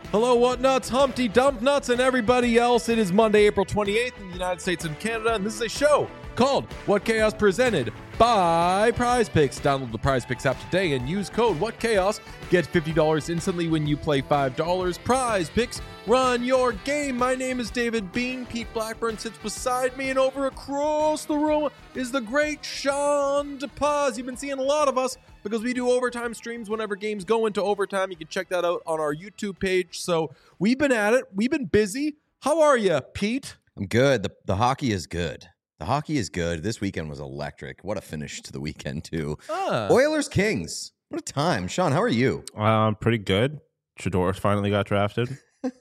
Hello, what nuts, Humpty Dump Nuts, and everybody else. It is Monday, April 28th in the United States and Canada, and this is a show called What Chaos, presented by Prize Picks. Download the Prize Picks app today and use code What Chaos. Get $50 instantly when you play $5. Prize Picks, run your game. My name is David Bean. Pete Blackburn sits beside me, and over across the room is the great Sean DePaz. You've been seeing a lot of us because we do overtime streams whenever games go into overtime. You can check that out on our YouTube page. So we've been at it. We've been busy. How are you, Pete? I'm good. The hockey is good. The hockey is good. This weekend was electric. What a finish to the weekend, too. Oilers Kings. What a time. Sean, how are you? Pretty good. Shador finally got drafted.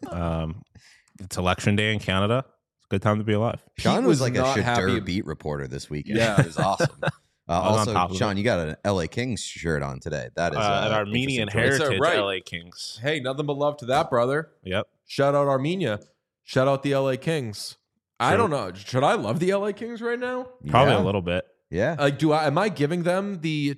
It's election day in Canada. It's a good time to be alive. Sean was like a Shador beat reporter this weekend. Yeah. It was awesome. Also, Sean, you got an LA Kings shirt on today. That is an Armenian heritage LA Kings. Hey, nothing but love to that, brother. Yep. Shout out Armenia. Shout out the LA Kings. I don't know. Should I love the LA Kings right now? Probably a little bit. Yeah. Like, am I giving them the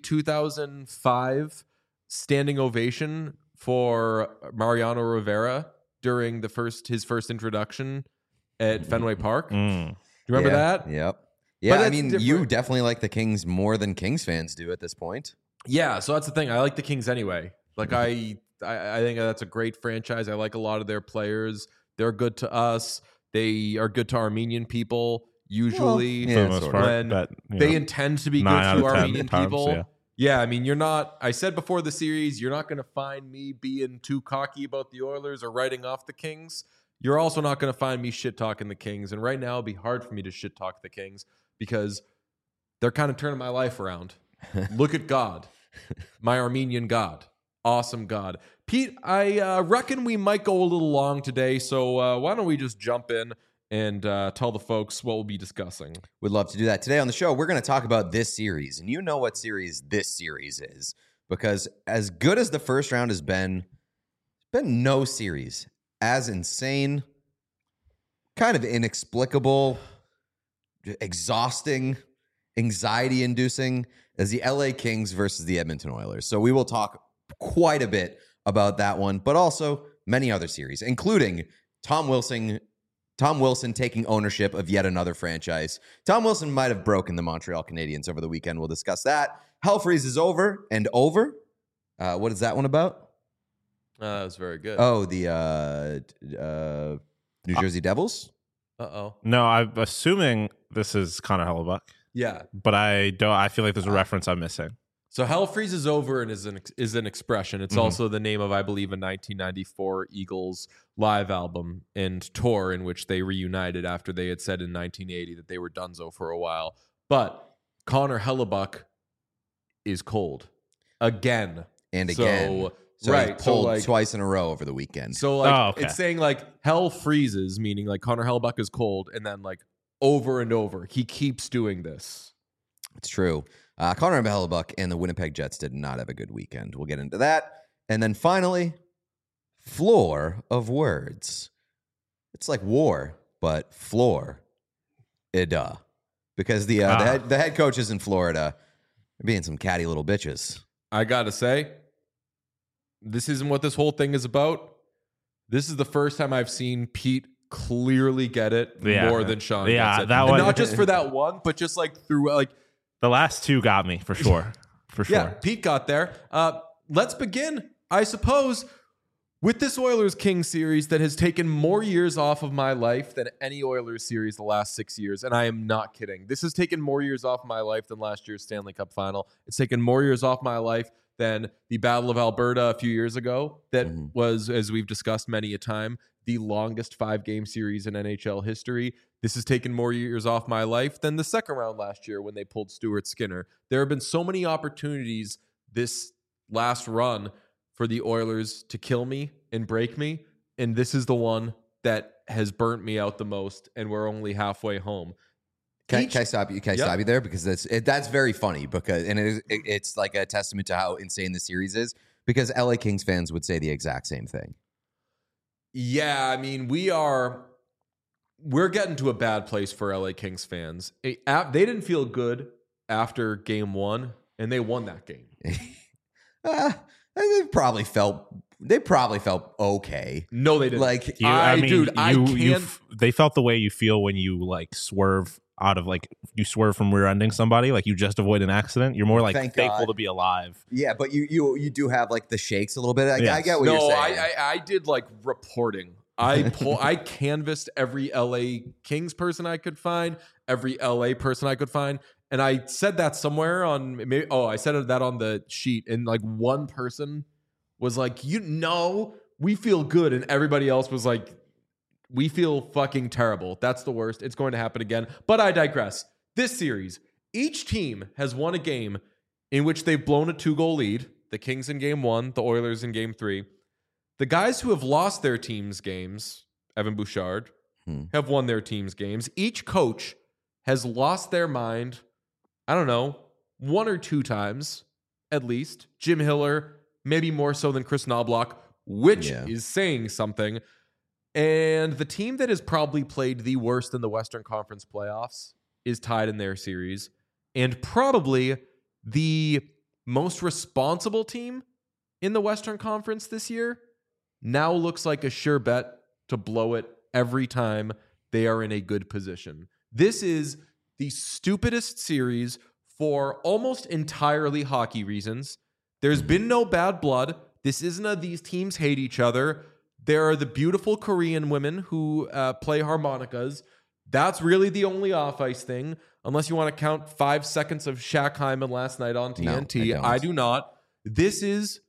2005 standing ovation for Mariano Rivera during his first introduction at Fenway Park? Do you remember that? Yep. Yeah, I mean, different. you definitely like the Kings more than Kings fans do at this point. Yeah, so that's the thing. I like the Kings anyway. Like, I think that's a great franchise. I like a lot of their players. They're good to us. They are good to Armenian people, usually. For the most part, when they intend to be good to Armenian people. Yeah, I mean, I said before the series, you're not going to find me being too cocky about the Oilers or writing off the Kings. You're also not going to find me shit-talking the Kings. And right now, it'll be hard for me to shit-talk the Kings because they're kind of turning my life around. Look at God, my Armenian God. Awesome God. Pete, I reckon we might go a little long today, so why don't we just jump in and tell the folks what we'll be discussing. We'd love to do that. Today on the show, we're going to talk about this series, and you know what series this series is, because as good as the first round has been no series as insane, kind of inexplicable, exhausting, anxiety-inducing as the LA Kings versus the Edmonton Oilers. So we will talk quite a bit about that one, but also many other series, including Tom Wilson taking ownership of yet another franchise. Tom Wilson might have broken the Montreal Canadiens over the weekend. We'll discuss that. Hell Freeze is over and over. What is that one about? That was very good. Oh, the New Jersey Devils? Uh-oh. No, I'm assuming this is Connor Hellebuck. Yeah. But I feel like there's a reference I'm missing. So Hell Freezes Over and is an expression. It's also the name of, I believe, a 1994 Eagles live album and tour in which they reunited after they had said in 1980 that they were donezo for a while. But Connor Hellebuck is cold. Again. And again. So right. he pulled twice in a row over the weekend. So It's saying Hell freezes, meaning Connor Hellebuck is cold, and then over and over. He keeps doing this. It's true. Connor Hellebuck and the Winnipeg Jets did not have a good weekend. We'll get into that. And then finally, floor of words. It's like war, but floor. Because the head coaches in Florida are being some catty little bitches. I got to say, this isn't what this whole thing is about. This is the first time I've seen Pete clearly get it more than Sean gets it. That one, and not just for that one, but just through the last two got me for sure. For sure. Yeah, Pete got there. Let's begin, I suppose, with this Oilers Kings series that has taken more years off of my life than any Oilers series the last 6 years. And I am not kidding. This has taken more years off my life than last year's Stanley Cup final. It's taken more years off my life than the Battle of Alberta a few years ago. That was, as we've discussed many a time, the longest 5-game series in NHL history. This has taken more years off my life than the second round last year when they pulled Stuart Skinner. There have been so many opportunities this last run for the Oilers to kill me and break me, and this is the one that has burnt me out the most, and we're only halfway home. Can I stop you? Can I stop you there? Because that's very funny, because it's like a testament to how insane the series is, because LA Kings fans would say the exact same thing. Yeah, I mean, we're getting to a bad place for LA Kings fans. They didn't feel good after game one, and they won that game. They probably felt they probably felt okay. No, they didn't. Like, They felt the way you feel when you like swerve out of like you swerve from rear-ending somebody, like you just avoid an accident. You're more like Thank thankful God. to be alive. yeah, but you do have like the shakes a little bit. I Yes. get what you're No, saying. I did like reporting. I canvassed every LA Kings person I could find, every LA person I could find, and I said that somewhere on maybe. Oh, I said that on the sheet, and like one person was like, we feel good, and everybody else was like, we feel fucking terrible. That's the worst. It's going to happen again. But I digress. This series, each team has won a game in which they've blown a 2-goal lead. The Kings in game 1, the Oilers in game 3. The guys who have lost their team's games, Evan Bouchard, have won their team's games. Each coach has lost their mind, I don't know, 1 or 2 times at least. Jim Hiller, maybe more so than Chris Knobloch, which is saying something. And the team that has probably played the worst in the Western Conference playoffs is tied in their series. And probably the most responsible team in the Western Conference this year now looks like a sure bet to blow it every time they are in a good position. This is the stupidest series for almost entirely hockey reasons. There's been no bad blood. This isn't these teams hate each other. There are the beautiful Korean women who play harmonicas. That's really the only off-ice thing, unless you want to count 5 seconds of Shaq Hyman last night on TNT. No, I do not. This is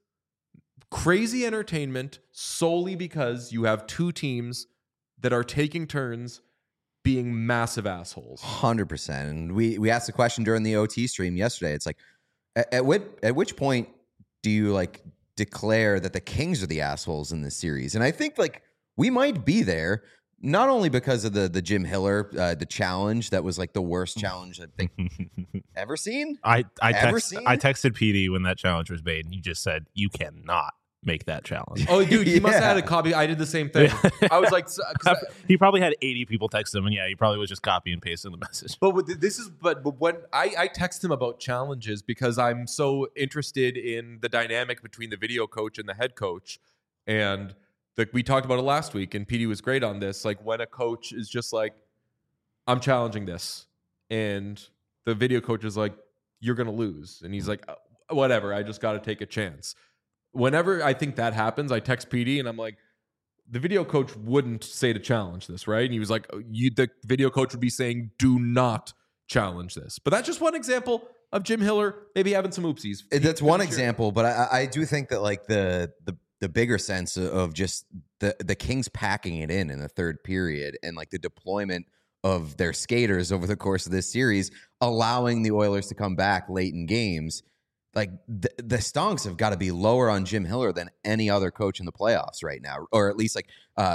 crazy entertainment solely because you have 2 teams that are taking turns being massive assholes. 100%. And we asked the question during the OT stream yesterday. It's like, at which point do you like declare that the Kings are the assholes in this series? And I think like we might be there, not only because of the Jim Hiller, the challenge that was like the worst challenge I think ever seen. I texted PD when that challenge was made, and he just said, "You cannot make that challenge." Oh, dude, he must have had a copy. I did the same thing. I was like, he probably had 80 people text him, and he probably was just copy and pasting the message. But when I text him about challenges because I'm so interested in the dynamic between the video coach and the head coach, and we talked about it last week, and PD was great on this. Like when a coach is just like, "I'm challenging this," and the video coach is like, "You're gonna lose," and he's like, "Whatever, I just got to take a chance." Whenever I think that happens, I text PD and I'm like, the video coach wouldn't say to challenge this, right? And he was like, the video coach would be saying, do not challenge this. But that's just one example of Jim Hiller maybe having some oopsies. That's one example, but I do think that like the bigger sense of just the Kings packing it in the third period and like the deployment of their skaters over the course of this series, allowing the Oilers to come back late in games. Like the stonks have got to be lower on Jim Hiller than any other coach in the playoffs right now, or at least like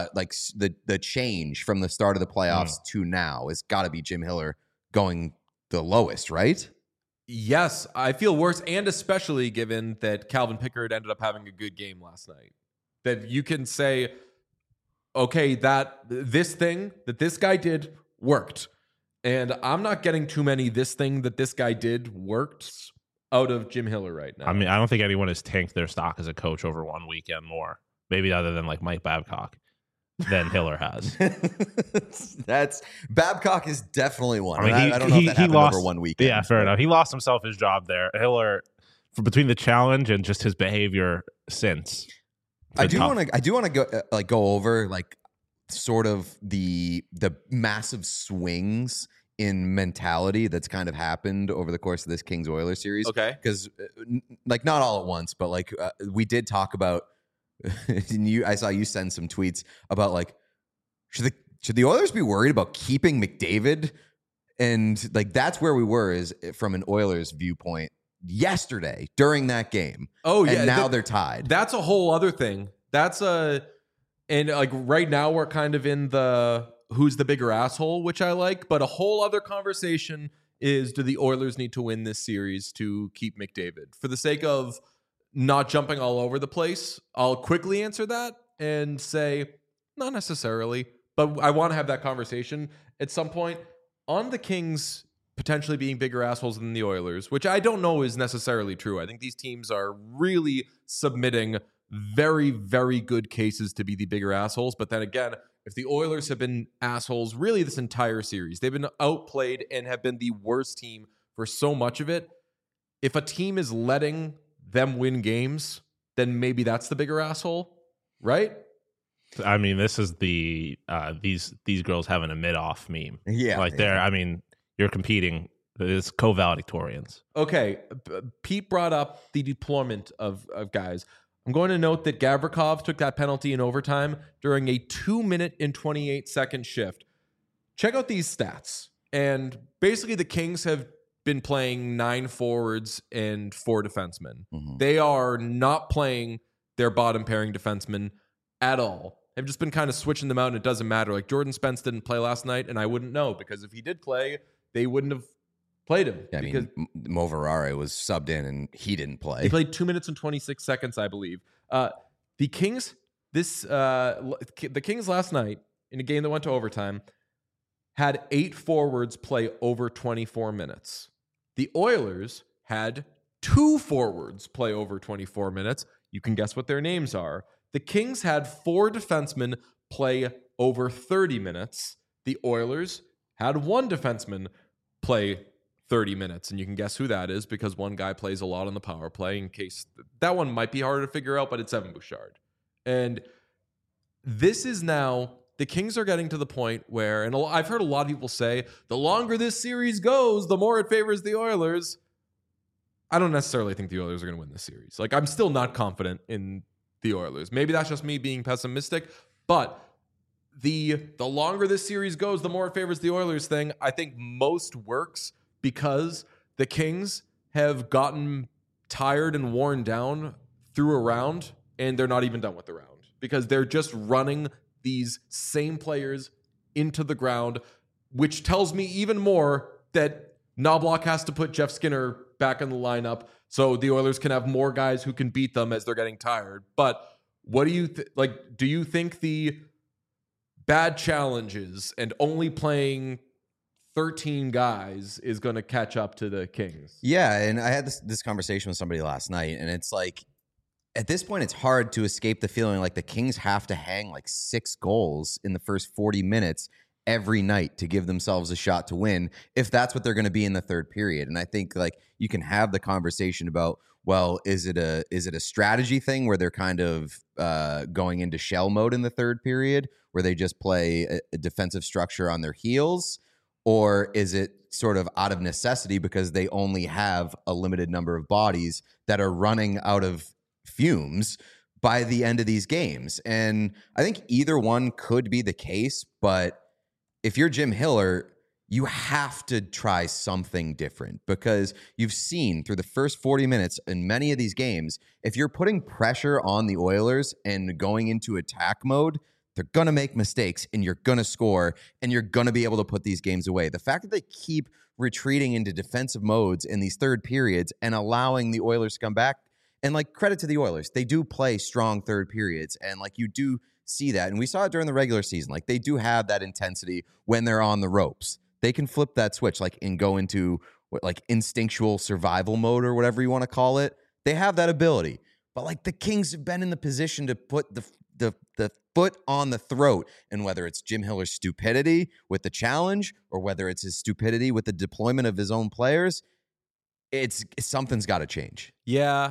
the change from the start of the playoffs to now has got to be Jim Hiller going the lowest, right? Yes, I feel worse, and especially given that Calvin Pickard ended up having a good game last night. That you can say, okay, that this thing that this guy did worked, and I'm not getting too many this thing that this guy did worked out of Jim Hiller right now. I mean, I don't think anyone has tanked their stock as a coach over one weekend more, maybe other than like Mike Babcock, than Hiller has. That's Babcock is definitely one. I mean, I don't know if that happened over one weekend. Yeah, fair enough. He lost himself his job there. Hiller, between the challenge and just his behavior since. I do want to go over like sort of the massive swings in mentality that's kind of happened over the course of this Kings Oilers series. Okay. Because like not all at once, but like we did talk about, I saw you send some tweets about like, should the Oilers be worried about keeping McDavid? And like, that's where we were is from an Oilers viewpoint yesterday during that game. Oh yeah. And now they're tied. That's a whole other thing. And like right now we're kind of in the, who's the bigger asshole, which I like, but a whole other conversation is, do the Oilers need to win this series to keep McDavid? For the sake of not jumping all over the place, I'll quickly answer that and say, not necessarily, but I want to have that conversation at some point on the Kings potentially being bigger assholes than the Oilers, which I don't know is necessarily true. I think these teams are really submitting very, very good cases to be the bigger assholes. But then again, if the Oilers have been assholes really this entire series, they've been outplayed and have been the worst team for so much of it. If a team is letting them win games, then maybe that's the bigger asshole, right? I mean, this is the these girls having a mid-off meme. Yeah. Like they're, I mean, you're competing. It's co-valedictorians. Okay, Pete brought up the deployment of guys. I'm going to note that Gavrikov took that penalty in overtime during a 2-minute and 28-second shift. Check out these stats. And basically the Kings have been playing 9 forwards and 4 defensemen. Mhm. They are not playing their bottom pairing defensemen at all. They've just been kind of switching them out, and it doesn't matter. Like Jordan Spence didn't play last night, and I wouldn't know, because if he did play, they wouldn't have played him. Yeah, I because mean, Mo Verare was subbed in and he didn't play. he played 2 minutes and 26 seconds, I believe. The Kings, the Kings last night in a game that went to overtime had 8 forwards play over 24 minutes. The Oilers had 2 forwards play over 24 minutes. You can guess what their names are. The Kings had 4 defensemen play over 30 minutes. The Oilers had 1 defenseman play 30 minutes, and you can guess who that is because one guy plays a lot on the power play. In case that one might be harder to figure out, but it's Evan Bouchard. And this is now, the Kings are getting to the point where, and I've heard a lot of people say, the longer this series goes, the more it favors the Oilers. I don't necessarily think the Oilers are going to win this series. Like, I'm still not confident in the Oilers. Maybe that's just me being pessimistic, but the longer this series goes, the more it favors the Oilers thing, I think most works because the Kings have gotten tired and worn down through a round, and they're not even done with the round because they're just running these same players into the ground, which tells me even more that Knobloch has to put Jeff Skinner back in the lineup so the Oilers can have more guys who can beat them as they're getting tired. But what do you like? Do you think the bad challenges and only playing 13 guys is going to catch up to the Kings? Yeah, and I had this conversation with somebody last night, and it's like, at this point, it's hard to escape the feeling like the Kings have to hang like 6 goals in the first 40 minutes every night to give themselves a shot to win, if that's what they're going to be in the third period. And I think like you can have the conversation about, well, is it a strategy thing where they're kind of going into shell mode in the third period, where they just play a defensive structure on their heels? Or is it sort of out of necessity because they only have a limited number of bodies that are running out of fumes by the end of these games? And I think either one could be the case, but if you're Jim Hiller, you have to try something different because you've seen through the first 40 minutes in many of these games, if you're putting pressure on the Oilers and going into attack mode, they're going to make mistakes and you're going to score and you're going to be able to put these games away. The fact that they keep retreating into defensive modes in these third periods and allowing the Oilers to come back, and like credit to the Oilers, they do play strong third periods, and like you do see that, and we saw it during the regular season. Like they do have that intensity when they're on the ropes. They can flip that switch, like and go into like instinctual survival mode or whatever you want to call it. They have that ability, but like the Kings have been in the position to put the foot on the throat, and whether it's Jim Hiller's stupidity with the challenge or whether it's his stupidity with the deployment of his own players, it's something's got to change. Yeah,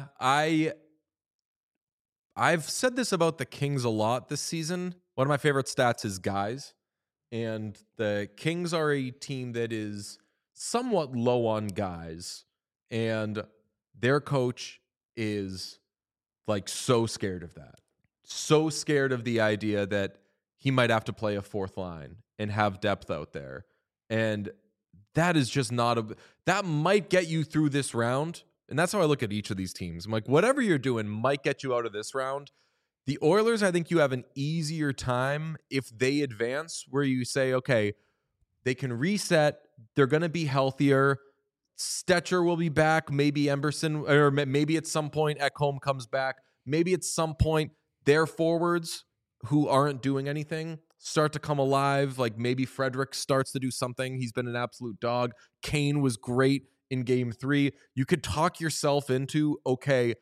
I've said this about the Kings a lot this season. One of my favorite stats is guys. And the Kings are a team that is somewhat low on guys. And their coach is like so scared of that. So scared of the idea that he might have to play a 4th line and have depth out there. And that is just that might get you through this round. And that's how I look at each of these teams. I'm like, whatever you're doing might get you out of this round. The Oilers, I think you have an easier time if they advance, where you say, okay, they can reset. They're going to be healthier. Stetcher will be back. Maybe Emberson, or maybe at some point Ekholm comes back. Maybe at some point their forwards who aren't doing anything start to come alive. Like maybe Frederick starts to do something. He's been an absolute dog. Kane was great in game 3. You could talk yourself into, okay,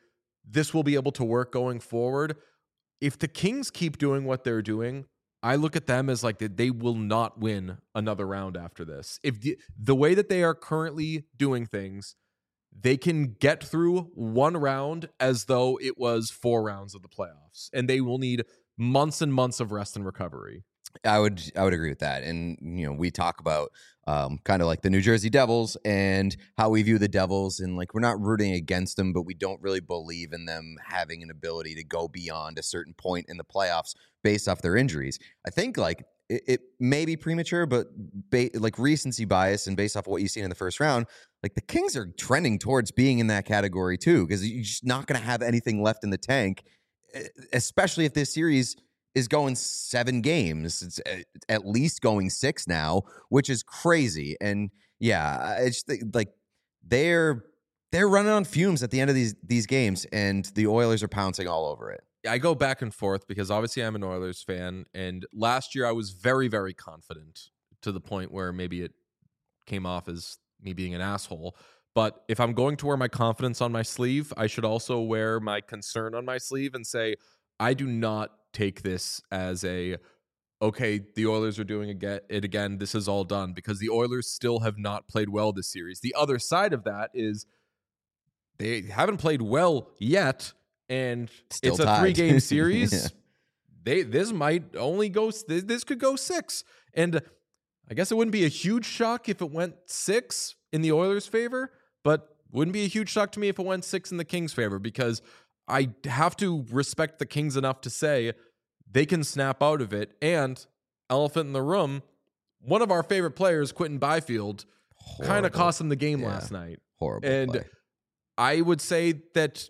this will be able to work going forward. If the Kings keep doing what they're doing, I look at them as like they will not win another round after this. If the way that they are currently doing things, they can get through one round as though it was 4 rounds of the playoffs, and they will need months and months of rest and recovery. I would agree with that. And, we talk about kind of like the New Jersey Devils and how we view the Devils, and like we're not rooting against them, but we don't really believe in them having an ability to go beyond a certain point in the playoffs based off their injuries. I think like it may be premature, but like recency bias and based off of what you've seen in the first round, like the Kings are trending towards being in that category too, because you're just not going to have anything left in the tank, especially if this series is going 7 games. It's at least going 6 now, which is crazy. And yeah, I just think like they're running on fumes at the end of these games, and the Oilers are pouncing all over it. I go back and forth because obviously I'm an Oilers fan, and last year I was very, very confident to the point where maybe it came off as me being an asshole. But if I'm going to wear my confidence on my sleeve, I should also wear my concern on my sleeve and say, I do not take this as okay, the Oilers are doing it again. This is all done, because the Oilers still have not played well this series. The other side of that is they haven't played well yet, and Still it's a tied. 3-game series. Yeah. This might only go. This could go 6, and I guess it wouldn't be a huge shock if it went 6 in the Oilers' favor, but wouldn't be a huge shock to me if it went 6 in the Kings' favor, because I have to respect the Kings enough to say they can snap out of it. And elephant in the room, one of our favorite players, Quentin Byfield, kind of cost them the game last night. Horrible And play. I would say that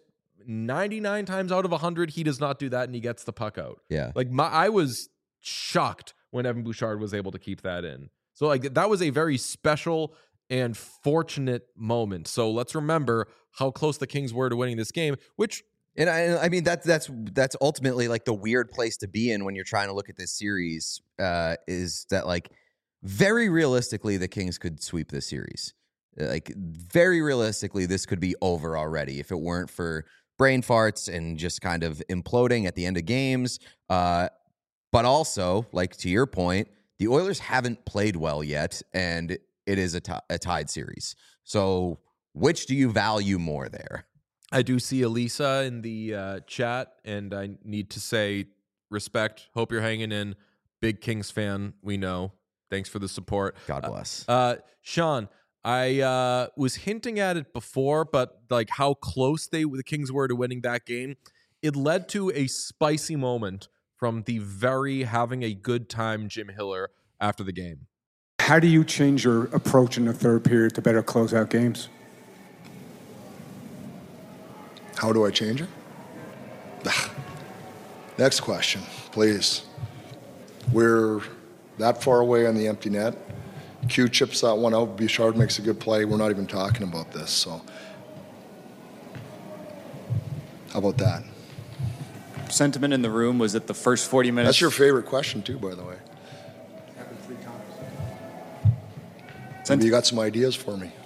99 times out of 100, he does not do that, and he gets the puck out. Yeah. Like I was shocked when Evan Bouchard was able to keep that in. So like that was a very special and fortunate moment. So let's remember how close the Kings were to winning this game, which. And I mean that's ultimately like the weird place to be in when you're trying to look at this series, is that like very realistically the Kings could sweep this series. Like very realistically, this could be over already if it weren't for brain farts and just kind of imploding at the end of games. But also, like to your point, the Oilers haven't played well yet, and it is a tied series. So which do you value more there? I do see Elisa in the chat, and I need to say respect. Hope you're hanging in. Big Kings fan, we know. Thanks for the support. God bless. Sean, I was hinting at it before, but like how close the Kings were to winning that game, it led to a spicy moment from the very having a good time Jim Hiller after the game. How do you change your approach in the third period to better close out games? How do I change it? Next question, please. We're that far away on the empty net. Q chips that one out. Bouchard makes a good play. We're not even talking about this. So, how about that? Sentiment in the room was that the first 40 minutes. That's your favorite question, too, by the way. Happened 3 times. Maybe you got some ideas for me.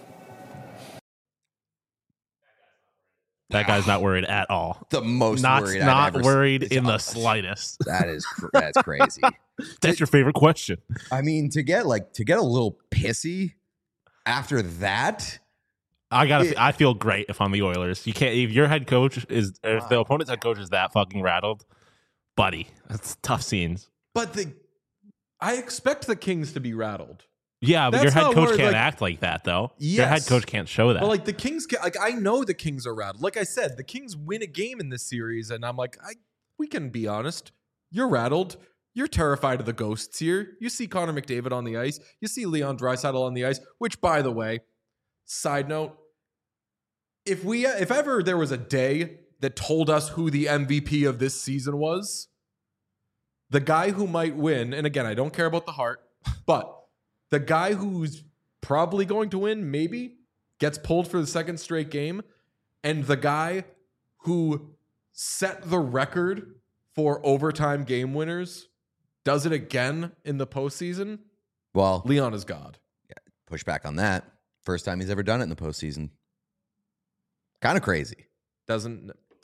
That guy's not worried at all. The most Not worried not I've ever worried seen. in the slightest. That's crazy. That's your favorite question. I mean, to get a little pissy after that. I feel great if I'm the Oilers. You can't if your head coach is if the opponent's head coach is that fucking rattled, buddy. That's tough scenes. But I expect the Kings to be rattled. Yeah, but That's your head not coach where, can't like- act like that though. Your head Yes. coach can't show that. But like the Kings, I know the Kings are rattled. Like I said, the Kings win a game in this series, and I'm like, we can be honest. You're rattled. You're terrified of the ghosts here. You see Connor McDavid on the ice. You see Leon Draisaitl on the ice. Which, by the way, side note, if ever there was a day that told us who the MVP of this season was, the guy who might win, and again, I don't care about the heart, but the guy who's probably going to win, maybe, gets pulled for the second straight game, and the guy who set the record for overtime game winners does it again in the postseason, Well, Leon is God. push back on that. First time he's ever done it in the postseason. Kind of crazy.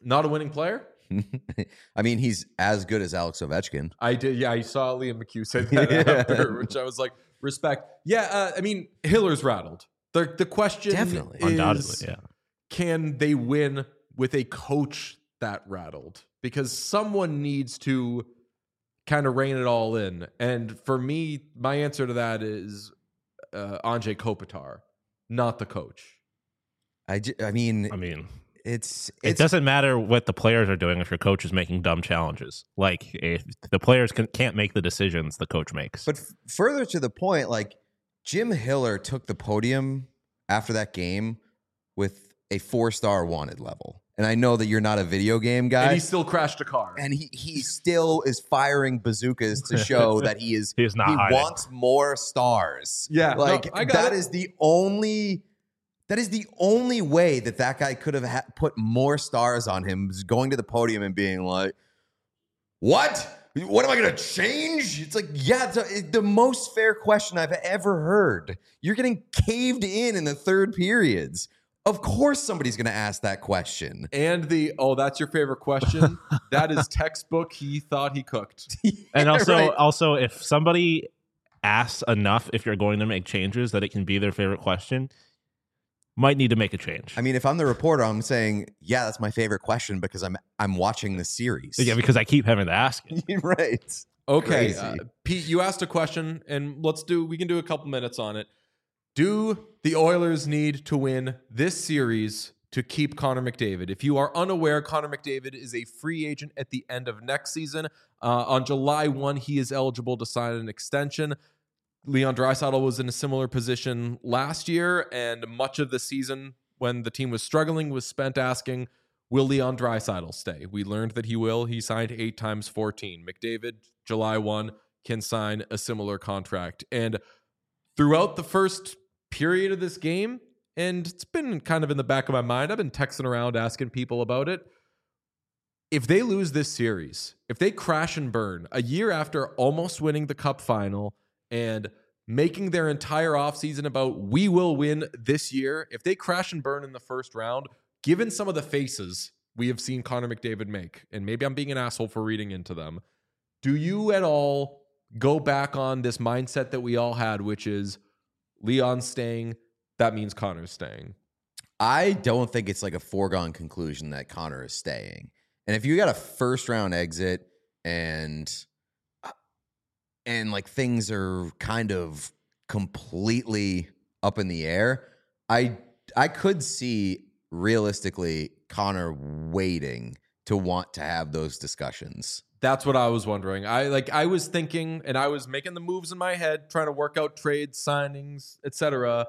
Not a winning player? I mean, he's as good as Alex Ovechkin. I did. Yeah, I saw Liam McHugh say that after, which I was like, respect. Yeah, I mean, Hiller's rattled. The question Definitely. is, Undoubtedly, yeah. Can they win with a coach that rattled? Because someone needs to kind of rein it all in. And for me, my answer to that is Anze Kopitar, not the coach. I mean, it it's doesn't matter what the players are doing if your coach is making dumb challenges. Like, if the players can't make the decisions the coach makes. But further to the point, like Jim Hiller took the podium after that game with a 4-star wanted level. And I know that you're not a video game guy. And he still crashed a car. And he still is firing bazookas to show that he wants more stars. Yeah, like no, I got that it. is the only way that guy could have put more stars on him, is going to the podium and being like, "What? What am I going to change?" It's like, yeah, it's the most fair question I've ever heard. You're getting caved in the third periods. Of course somebody's going to ask that question. And that's your favorite question? That is textbook. He thought he cooked. And right. also, if somebody asks enough, if you're going to make changes, that it can be their favorite question, might need to make a change. I mean, if I'm the reporter, I'm saying, yeah, that's my favorite question because I'm watching the series. Yeah, because I keep having to ask it. Right. Okay, Crazy. Pete, you asked a question, and we can do a couple minutes on it. Do the Oilers need to win this series to keep Connor McDavid? If you are unaware, Connor McDavid is a free agent at the end of next season. On July 1, he is eligible to sign an extension. Leon Draisaitl was in a similar position last year, and much of the season when the team was struggling was spent asking, will Leon Draisaitl stay? We learned that he will. He signed 8 times 14. McDavid, July 1, can sign a similar contract. And throughout the first period of this game, and it's been kind of in the back of my mind, I've been texting around asking people about it. If they lose this series, if they crash and burn a year after almost winning the Cup final and making their entire offseason about we will win this year, if they crash and burn in the first round, given some of the faces we have seen Connor McDavid make, and maybe I'm being an asshole for reading into them, do you at all go back on this mindset that we all had, which is Leon's staying, that means Connor's staying? I don't think it's like a foregone conclusion that Connor is staying. And if you got a first round exit and like things are kind of completely up in the air, I could see realistically Connor waiting to want to have those discussions. That's what I was wondering. I was thinking, and I was making the moves in my head, trying to work out trades, signings, etc.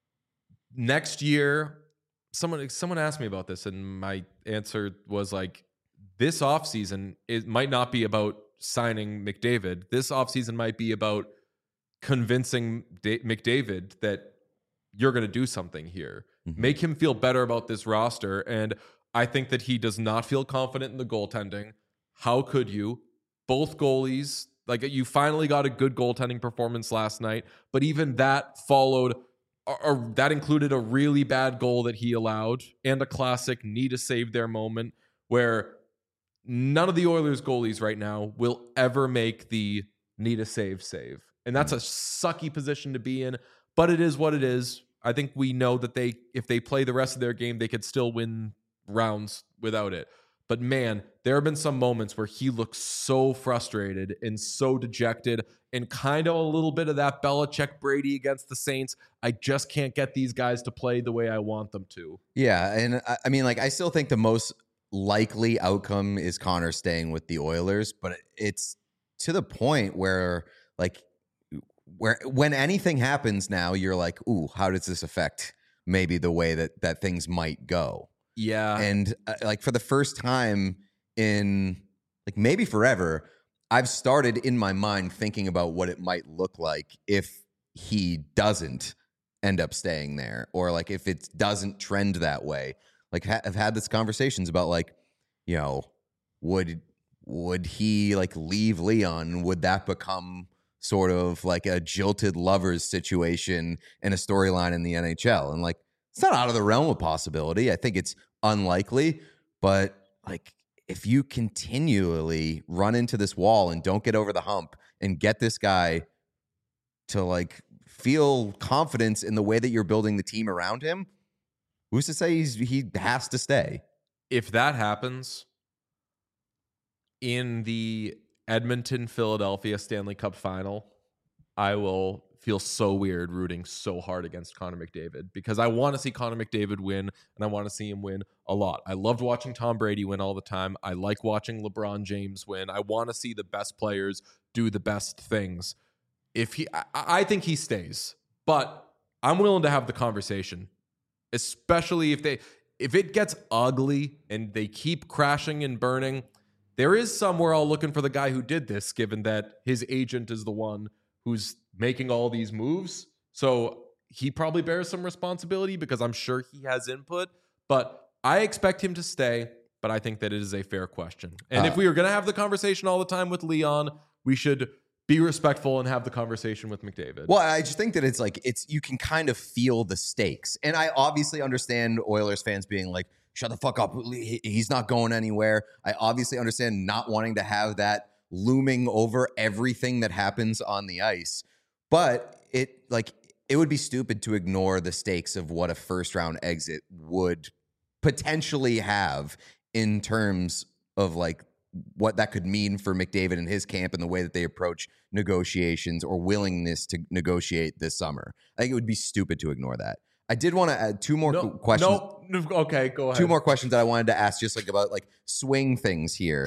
Next year, someone asked me about this, and my answer was like, this offseason, it might not be about signing McDavid. This offseason might be about convincing McDavid that you're going to do something here. Mm-hmm. Make him feel better about this roster. And I think that he does not feel confident in the goaltending. How could you? Both goalies, like, you finally got a good goaltending performance last night, but even that followed, or that included a really bad goal that he allowed and a classic need to save their moment, where none of the Oilers goalies right now will ever make the need a save. And that's a sucky position to be in, but it is what it is. I think we know that if they play the rest of their game, they could still win rounds without it. But man, there have been some moments where he looks so frustrated and so dejected, and kind of a little bit of that Belichick Brady against the Saints. I just can't get these guys to play the way I want them to. Yeah, and I mean, like, I still think the most likely outcome is Connor staying with the Oilers, but it's to the point where, like, when anything happens now, you're like, ooh, how does this affect maybe the way that things might go? Yeah. And like, for the first time in like maybe forever, I've started in my mind thinking about what it might look like if he doesn't end up staying there, or like if it doesn't trend that way. Like, I've had these conversations about, like, you know, would he like leave Leon? Would that become sort of like a jilted lovers situation in a storyline in the NHL? And like, it's not out of the realm of possibility. I think it's unlikely, but like if you continually run into this wall and don't get over the hump and get this guy to like feel confidence in the way that you're building the team around him, who's to say he has to stay? If that happens in the Edmonton-Philadelphia Stanley Cup final, I will feel so weird rooting so hard against Connor McDavid because I want to see Connor McDavid win, and I want to see him win a lot. I loved watching Tom Brady win all the time. I like watching LeBron James win. I want to see the best players do the best things. I think he stays, but I'm willing to have the conversation, especially if it gets ugly and they keep crashing and burning. There is somewhere I'll looking for the guy who did this, given that his agent is the one who's making all these moves. So he probably bears some responsibility because I'm sure he has input, but I expect him to stay, but I think that it is a fair question. And if we are going to have the conversation all the time with Leon, we should be respectful and have the conversation with McDavid. Well, I just think that it's you can kind of feel the stakes. And I obviously understand Oilers fans being like, shut the fuck up. He's not going anywhere. I obviously understand not wanting to have that looming over everything that happens on the ice. But it would be stupid to ignore the stakes of what a first round exit would potentially have in terms of like what that could mean for McDavid and his camp and the way that they approach negotiations or willingness to negotiate this summer. I think it would be stupid to ignore that. I did want to add two more questions. No, okay, go ahead. Two more questions that I wanted to ask just like about like swing things here.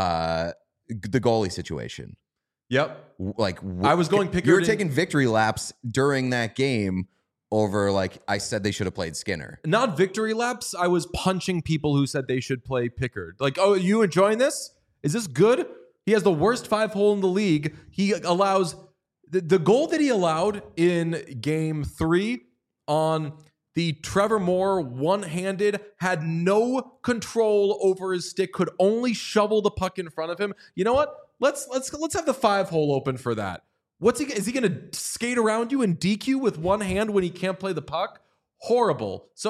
The goalie situation. Yep. Like I was going Pickard. You were taking victory laps during that game over like I said they should have played Skinner. Not victory laps. I was punching people who said they should play Pickard. Like, oh, you enjoying this? Is this good? He has the worst 5-hole in the league. He allows the goal that he allowed in game 3 on the Trevor Moore one-handed, had no control over his stick, could only shovel the puck in front of him. You know what? Let's have the 5-hole open for that. Is he going to skate around you and DQ with one hand when he can't play the puck? Horrible. So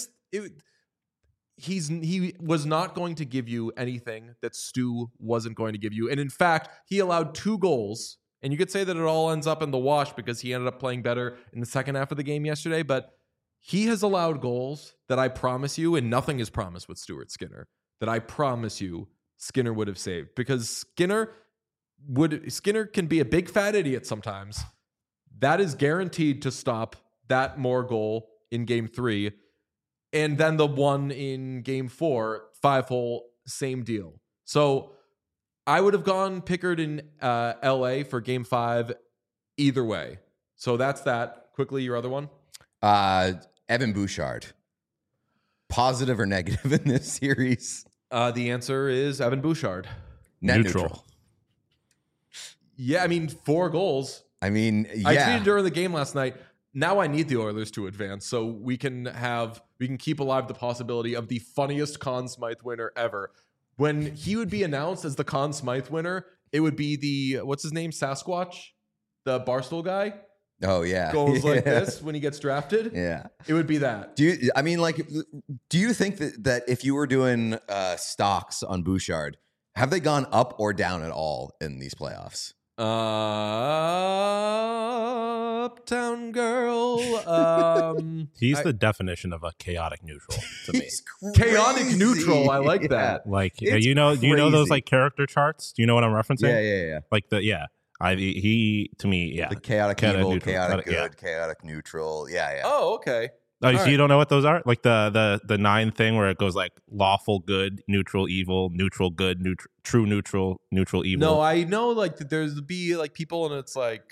he was not going to give you anything that Stu wasn't going to give you. And in fact, he allowed 2 goals. And you could say that it all ends up in the wash because he ended up playing better in the second half of the game yesterday. But he has allowed goals that I promise you, and nothing is promised with Stuart Skinner, that I promise you Skinner would have saved. Because Skinner can be a big fat idiot sometimes. That is guaranteed to stop that Moore goal in game 3. And then the one in game 4, 5-hole, same deal. So I would have gone Pickard in LA for game 5 either way. So that's that. Quickly, your other one. Evan Bouchard. Positive or negative in this series? The answer is Evan Bouchard. Net neutral. Yeah, I mean, 4 goals. I mean, yeah. I tweeted during the game last night. Now I need the Oilers to advance so we can keep alive the possibility of the funniest Conn Smythe winner ever. When he would be announced as the Conn Smythe winner, it would be the, what's his name, Sasquatch? The Barstool guy? Oh, yeah. Goes like this when he gets drafted? Yeah. It would be that. Do you think that if you were doing stocks on Bouchard, have they gone up or down at all in these playoffs? Uptown Girl. He's the definition of a chaotic neutral to me. Chaotic neutral. I like that. Like, do you know those like character charts? Do you know what I'm referencing? Yeah. Like he to me, yeah. The chaotic evil, neutral. chaotic good, Yeah. chaotic neutral. Yeah. Oh, okay. Oh, so right. you don't know what those are? Like the 9 thing where it goes like lawful good, neutral evil, neutral good, true neutral, neutral evil. No, I know like that there's be like people and it's like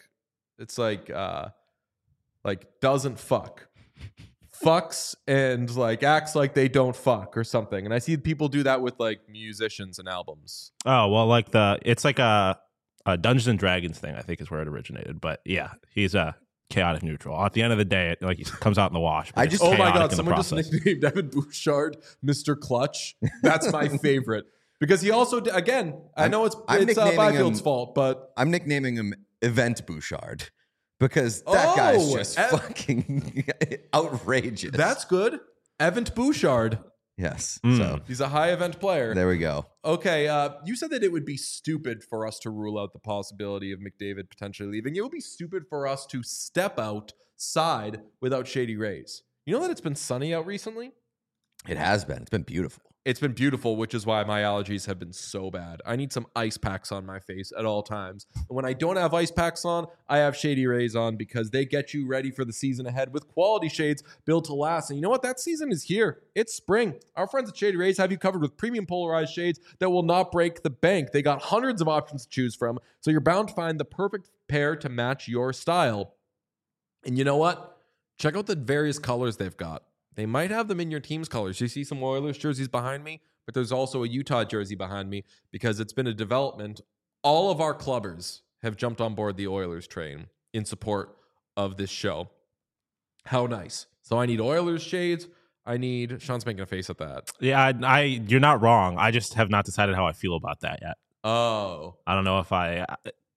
doesn't fuck. Fucks and like acts like they don't fuck or something. And I see people do that with like musicians and albums. Oh, well, like it's like a Dungeons and Dragons thing, I think is where it originated. But yeah, he's a chaotic neutral. At the end of the day, it comes out in the wash. Oh my God, someone just nicknamed Evan Bouchard Mr. Clutch. That's my favorite. Because he also, again, I know it's Byfield's fault, but I'm nicknaming him Event Bouchard because that guy's just fucking outrageous. That's good. Evan Bouchard. Yes. Mm. So He's a high event player. there we go. Okay, you said that it would be stupid for us to rule out the possibility of McDavid potentially leaving. It would be stupid for us to step outside without Shady Rays. You know that it's been sunny out recently? It has been. It's been beautiful. It's been beautiful, which is why my allergies have been so bad. I need some ice packs on my face at all times. And when I don't have ice packs on, I have Shady Rays on because they get you ready for the season ahead with quality shades built to last. And you know what? That season is here. It's spring. Our friends at Shady Rays have you covered with premium polarized shades that will not break the bank. They got hundreds of options to choose from, so you're bound to find the perfect pair to match your style. And you know what? Check out the various colors they've got. They might have them in your team's colors. You see some Oilers jerseys behind me, but there's also a Utah jersey behind me because it's been a development. All of our clubbers have jumped on board the Oilers train in support of this show. How nice. So I need Oilers shades. Sean's making a face at that. Yeah, you're not wrong. I just have not decided how I feel about that yet. Oh. I don't know if I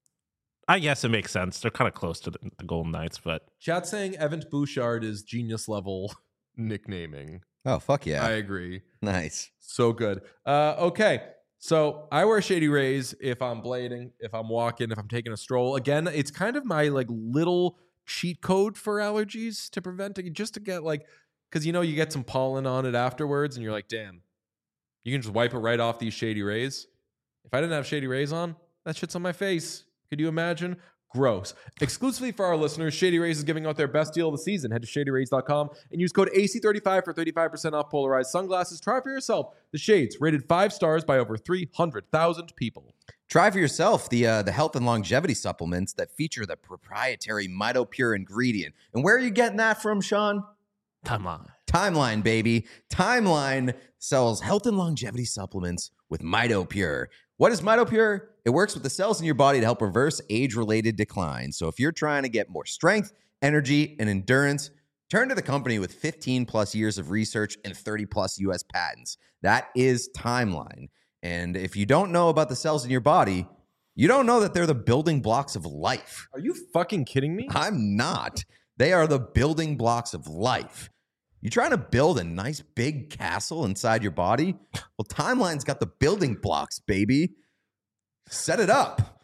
guess it makes sense. They're kind of close to the Golden Knights, but Chat saying Evan Bouchard is genius level nicknaming. Oh, fuck yeah. I agree. Nice. So good. Okay. So I wear Shady Rays if I'm blading, if I'm walking, if I'm taking a stroll. Again, it's kind of my like little cheat code for allergies to prevent it, just to get like, because you get some pollen on it afterwards and you're like, damn, you can just wipe it right off these Shady Rays. If I didn't have Shady Rays on, that shit's on my face. Could you imagine? Gross. Exclusively for our listeners, Shady Rays is giving out their best deal of the season. Head to shadyrays.com and use code AC35 for 35% off polarized sunglasses. Try for yourself the shades, rated 5 stars by over 300,000 people. Try for yourself the health and longevity supplements that feature the proprietary MitoPure ingredient. And where are you getting that from, Sean? Timeline, baby. Timeline sells health and longevity supplements with MitoPure. What is MitoPure? It works with the cells in your body to help reverse age-related decline. So if you're trying to get more strength, energy, and endurance, turn to the company with 15-plus years of research and 30-plus U.S. patents. That is Timeline. And if you don't know about the cells in your body, you don't know that they're the building blocks of life. Are you fucking kidding me? I'm not. They are the building blocks of life. You trying to build a nice big castle inside your body? Well, Timeline's got the building blocks, baby. Set it up.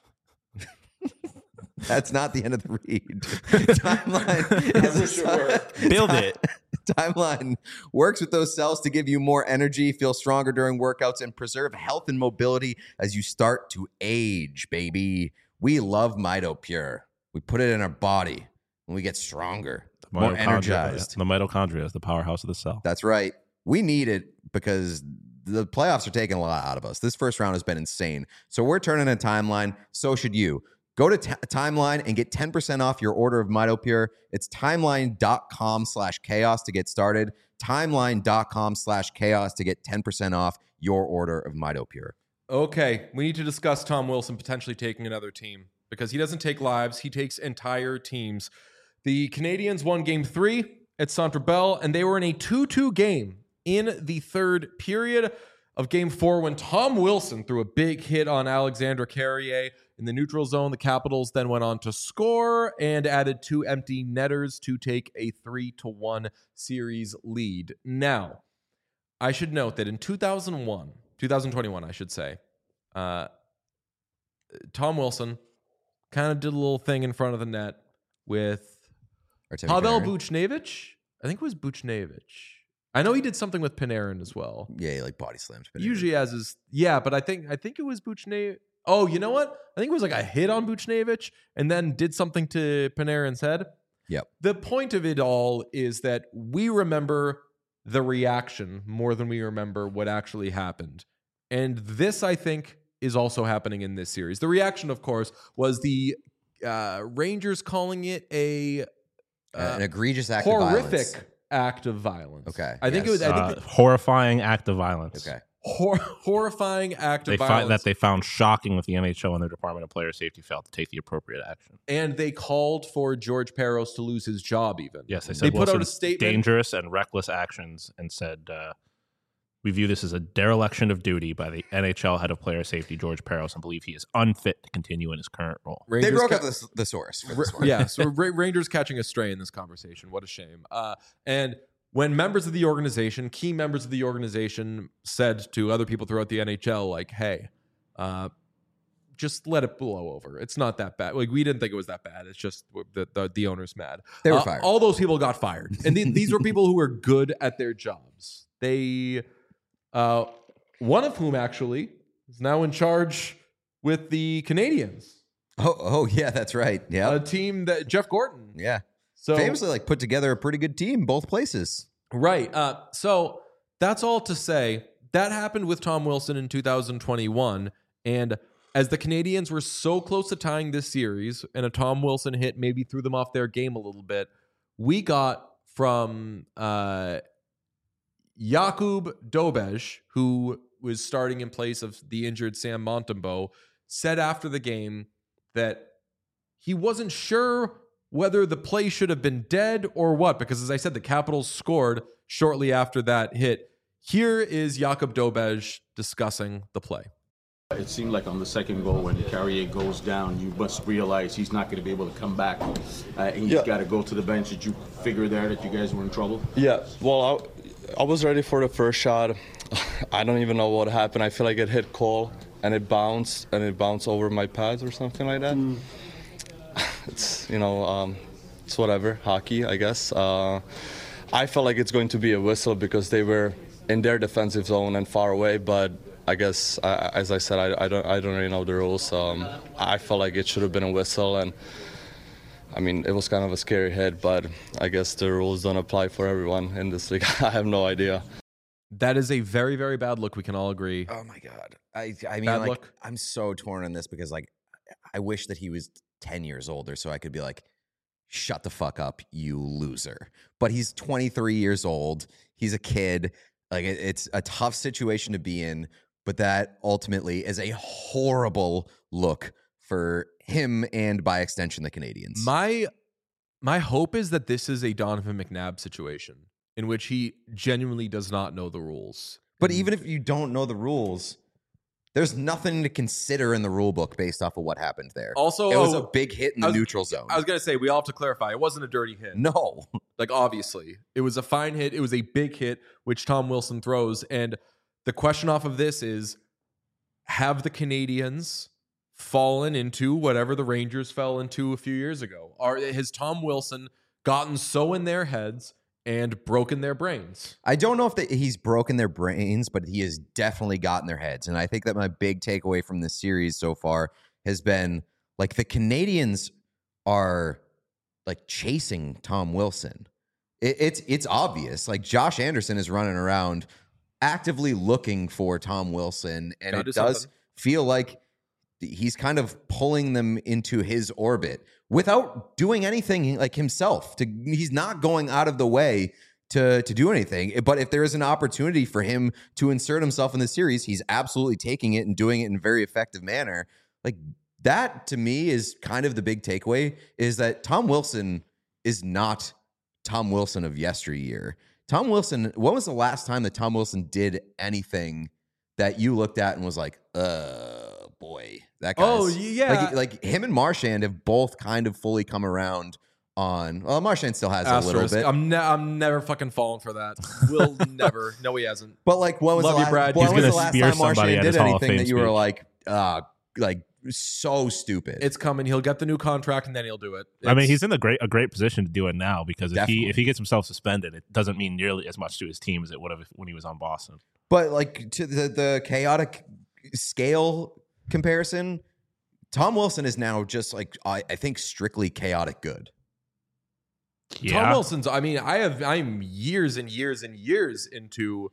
That's not the end of the read. Timeline is build it. Timeline works with those cells to give you more energy, feel stronger during workouts, and preserve health and mobility as you start to age, baby. We love MitoPure. We put it in our body and we get stronger, more energized. The mitochondria is the powerhouse of the cell. That's right. We need it because the playoffs are taking a lot out of us. This first round has been insane. So we're turning a Timeline. So should you. Go to Timeline and get 10% off your order of MitoPure. It's timeline.com/chaos to get started. Timeline.com/chaos to get 10% off your order of MitoPure. Okay, we need to discuss Tom Wilson potentially taking another team because he doesn't take lives, he takes entire teams. The Canadiens won Game 3 at Centre Bell, and they were in a 2-2 game in the third period of Game 4 when Tom Wilson threw a big hit on Alexandre Carrier in the neutral zone. The Capitals then went on to score and added 2 empty netters to take a 3-1 series lead. Now, I should note that in 2021, I should say, Tom Wilson kind of did a little thing in front of the net with Pavel Buchnevich. I think it was Buchnevich. I know he did something with Panarin as well. Yeah, he like body slams Panarin. Usually as his, yeah, but I think it was Buchnevich. Oh, you know what? I think it was like a hit on Buchnevich and then did something to Panarin's head. Yep. The point of it all is that we remember the reaction more than we remember what actually happened. And this, I think, is also happening in this series. The reaction, of course, was the Rangers calling it an egregious act horrific of violence. Act of violence. Okay. I think it was horrifying act of violence. Okay. Horrifying act of violence. That they found shocking with the NHL and their Department of Player Safety failed to take the appropriate action. And they called for George Peros to lose his job even. Yes, they said they put out a statement. Dangerous and reckless actions and said, we view this as a dereliction of duty by the NHL head of player safety, George Peros, and believe he is unfit to continue in his current role. They broke up the source for this one. Yeah, so Rangers catching a stray in this conversation. What a shame. And when members of the organization, key members of the organization, said to other people throughout the NHL, like, "Hey, just let it blow over. It's not that bad. Like, we didn't think it was that bad. It's just the owner's mad." They were fired. All those people got fired, and these were people who were good at their jobs. They, one of whom actually is now in charge with the Canadians. Oh yeah, that's right. Yeah, A team that Jeff Gorton. yeah. So Famously, like, put together a pretty good team both places. right. So that's all to say that happened with Tom Wilson in 2021, and as the Canadians were so close to tying this series, and a Tom Wilson hit maybe threw them off their game a little bit, we got from Jakub Dobej, who was starting in place of the injured Sam Montembeault, said after the game that he wasn't sure whether the play should have been dead or what, because as I said, the Capitals scored shortly after that hit. Here is Jakub Dobej discussing the play. It seemed like on the second goal, when Carrier goes down, you must realize he's not going to be able to come back, and he's got to go to the bench. Did you figure there that you guys were in trouble? Yeah, well, I was ready for the first shot. I don't even know what happened. I feel like it hit Cole, and it bounced over my pads or something like that. It's, it's whatever, hockey, I guess. I felt like it's going to be a whistle because they were in their defensive zone and far away, but I guess, as I said, I don't really know the rules. I felt like it should have been a whistle, and I mean, it was kind of a scary hit, but I guess the rules don't apply for everyone in this league. I have no idea. That is a very, very bad look. We can all agree. Oh my God. I mean, Bad like, look. I'm so torn on this because, like, I wish that he was 10 years older so I could be like, shut the fuck up, you loser. But he's 23 years old. He's a kid. Like, it's a tough situation to be in, but that ultimately is a horrible look for him and, by extension, the Canadians. My hope is that this is a Donovan McNabb situation in which he genuinely does not know the rules. But even if you don't know the rules, there's nothing to consider in the rule book based off of what happened there. Also, it was a big hit in the neutral zone. I was going to say, we all have to clarify, it wasn't a dirty hit. No. Like, obviously. It was a fine hit. It was a big hit, which Tom Wilson throws. And the question off of this is, have the Canadians fallen into whatever the Rangers fell into a few years ago? Has Tom Wilson gotten so in their heads and broken their brains? I don't know if he's broken their brains, but he has definitely gotten their heads. And I think that my big takeaway from this series so far has been, like, the Canadians are, like, chasing Tom Wilson. It's obvious. Like, Josh Anderson is running around actively looking for Tom Wilson, and it does feel like he's kind of pulling them into his orbit without doing anything like himself. He's not going out of the way to do anything. But if there is an opportunity for him to insert himself in the series, he's absolutely taking it and doing it in a very effective manner. Like, that to me is kind of the big takeaway, is that Tom Wilson is not Tom Wilson of yesteryear. Tom Wilson, when was the last time that Tom Wilson did anything that you looked at and was like, boy, that guy's... Oh, yeah. Like him and Marchand have both kind of fully come around on... Well, Marchand still has a little bit. I'm never fucking falling for that. Will never. No, he hasn't. But, like, when was Love the you, last, Brad. when He's was the gonna last spear time Marchand somebody at did his Hall of anything Fame that you were speech. like so stupid? It's coming. He'll get the new contract and then he'll do it. I mean, he's in a great position to do it now, because if Definitely. he gets himself suspended, it doesn't mean nearly as much to his team as it would have when he was on Boston. But, like, to the chaotic scale comparison, Tom Wilson is now just, like, I think strictly chaotic good. Yeah. Tom Wilson's, I mean, I'm years and years and years into,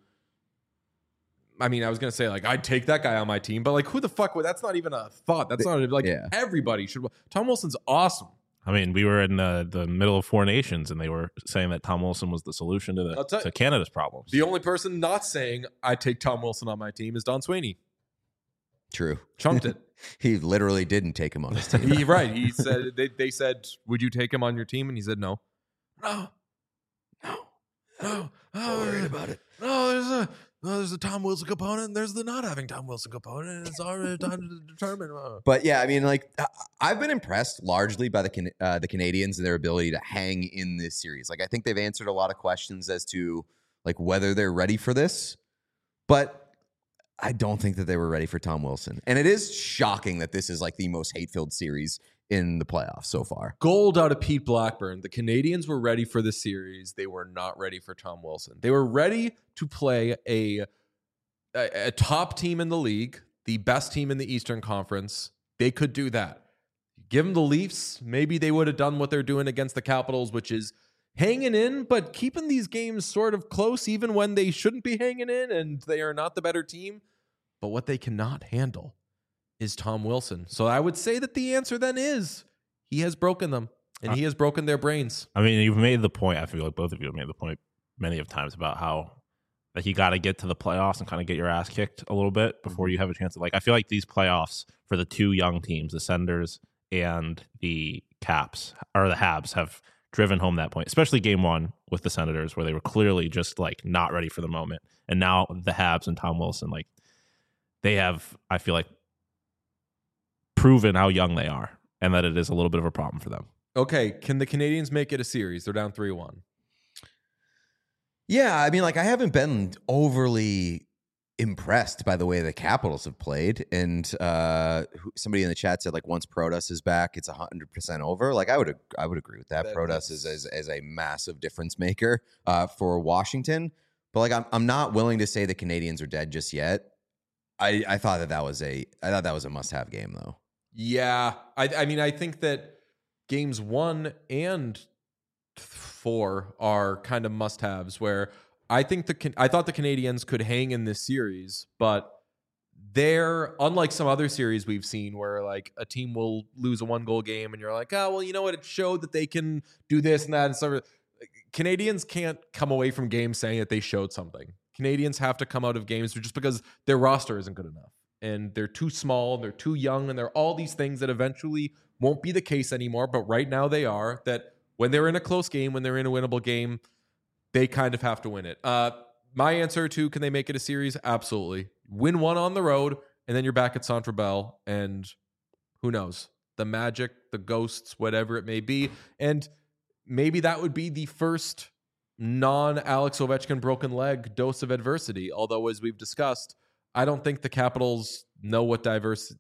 I mean, I was going to say, like, I'd take that guy on my team, but, like, who the fuck would, that's not even a thought. That's not, like, Yeah. everybody should, Tom Wilson's awesome. I mean, we were in the middle of Four Nations, and they were saying that Tom Wilson was the solution to Canada's problems. The only person not saying I take Tom Wilson on my team is Don Sweeney. True. Chunked it. He literally didn't take him on his team. Right. He said, they said, would you take him on your team? And he said, no. Not worried about it. No, oh, there's a Tom Wilson component, and there's the not having Tom Wilson component, and it's already time to determine. But yeah, I mean, like I've been impressed largely by the Canadiens and their ability to hang in this series. Like I think they've answered a lot of questions as to like whether they're ready for this, but I don't think that they were ready for Tom Wilson. And it is shocking that this is like the most hate-filled series in the playoffs so far. Gold out of Pete Blackburn. The Canadiens were ready for the series. They were not ready for Tom Wilson. They were ready to play a top team in the league, the best team in the Eastern Conference. They could do that. Give them the Leafs. Maybe they would have done what they're doing against the Capitals, which is hanging in, but keeping these games sort of close even when they shouldn't be hanging in and they are not the better team. But what they cannot handle is Tom Wilson. So I would say that the answer then is he has broken them and he has broken their brains. I mean, you've made the point. I feel like both of you have made the point many of times about how like you got to get to the playoffs and kind of get your ass kicked a little bit before you have a chance to like. I feel like these playoffs for the two young teams, the Senators and the Caps or the Habs, have driven home that point, especially game one with the Senators, where they were clearly just like not ready for the moment. And now the Habs and Tom Wilson, like they have, I feel like, proven how young they are and that it is a little bit of a problem for them. Okay, can the Canadiens make it a series? They're down 3-1. Yeah, I mean, like I haven't been overly impressed by the way the Capitals have played. And somebody in the chat said like once Protas is back, it's 100% over. Like I would agree with that. Protas is a massive difference maker for Washington. But like I'm not willing to say the Canadiens are dead just yet. I thought that was a must-have game though. Yeah, I mean, I think that games 1 and 4 are kind of must-haves. Where I thought the Canadiens could hang in this series, but they're unlike some other series we've seen where like a team will lose a 1-goal game and you're like, oh well, you know what? It showed that they can do this and that and stuff. Canadiens can't come away from games saying that they showed something. Canadiens have to come out of games just because their roster isn't good enough. And they're too small, and they're too young, and they're all these things that eventually won't be the case anymore. But right now they are, that when they're in a close game, when they're in a winnable game, they kind of have to win it. My answer to can they make it a series? Absolutely. Win one on the road, and then you're back at Centre Bell, and who knows? The Magic, the Ghosts, whatever it may be. And maybe that would be the first non-Alex Ovechkin broken leg dose of adversity. Although, as we've discussed, I don't think the Capitals know what adversity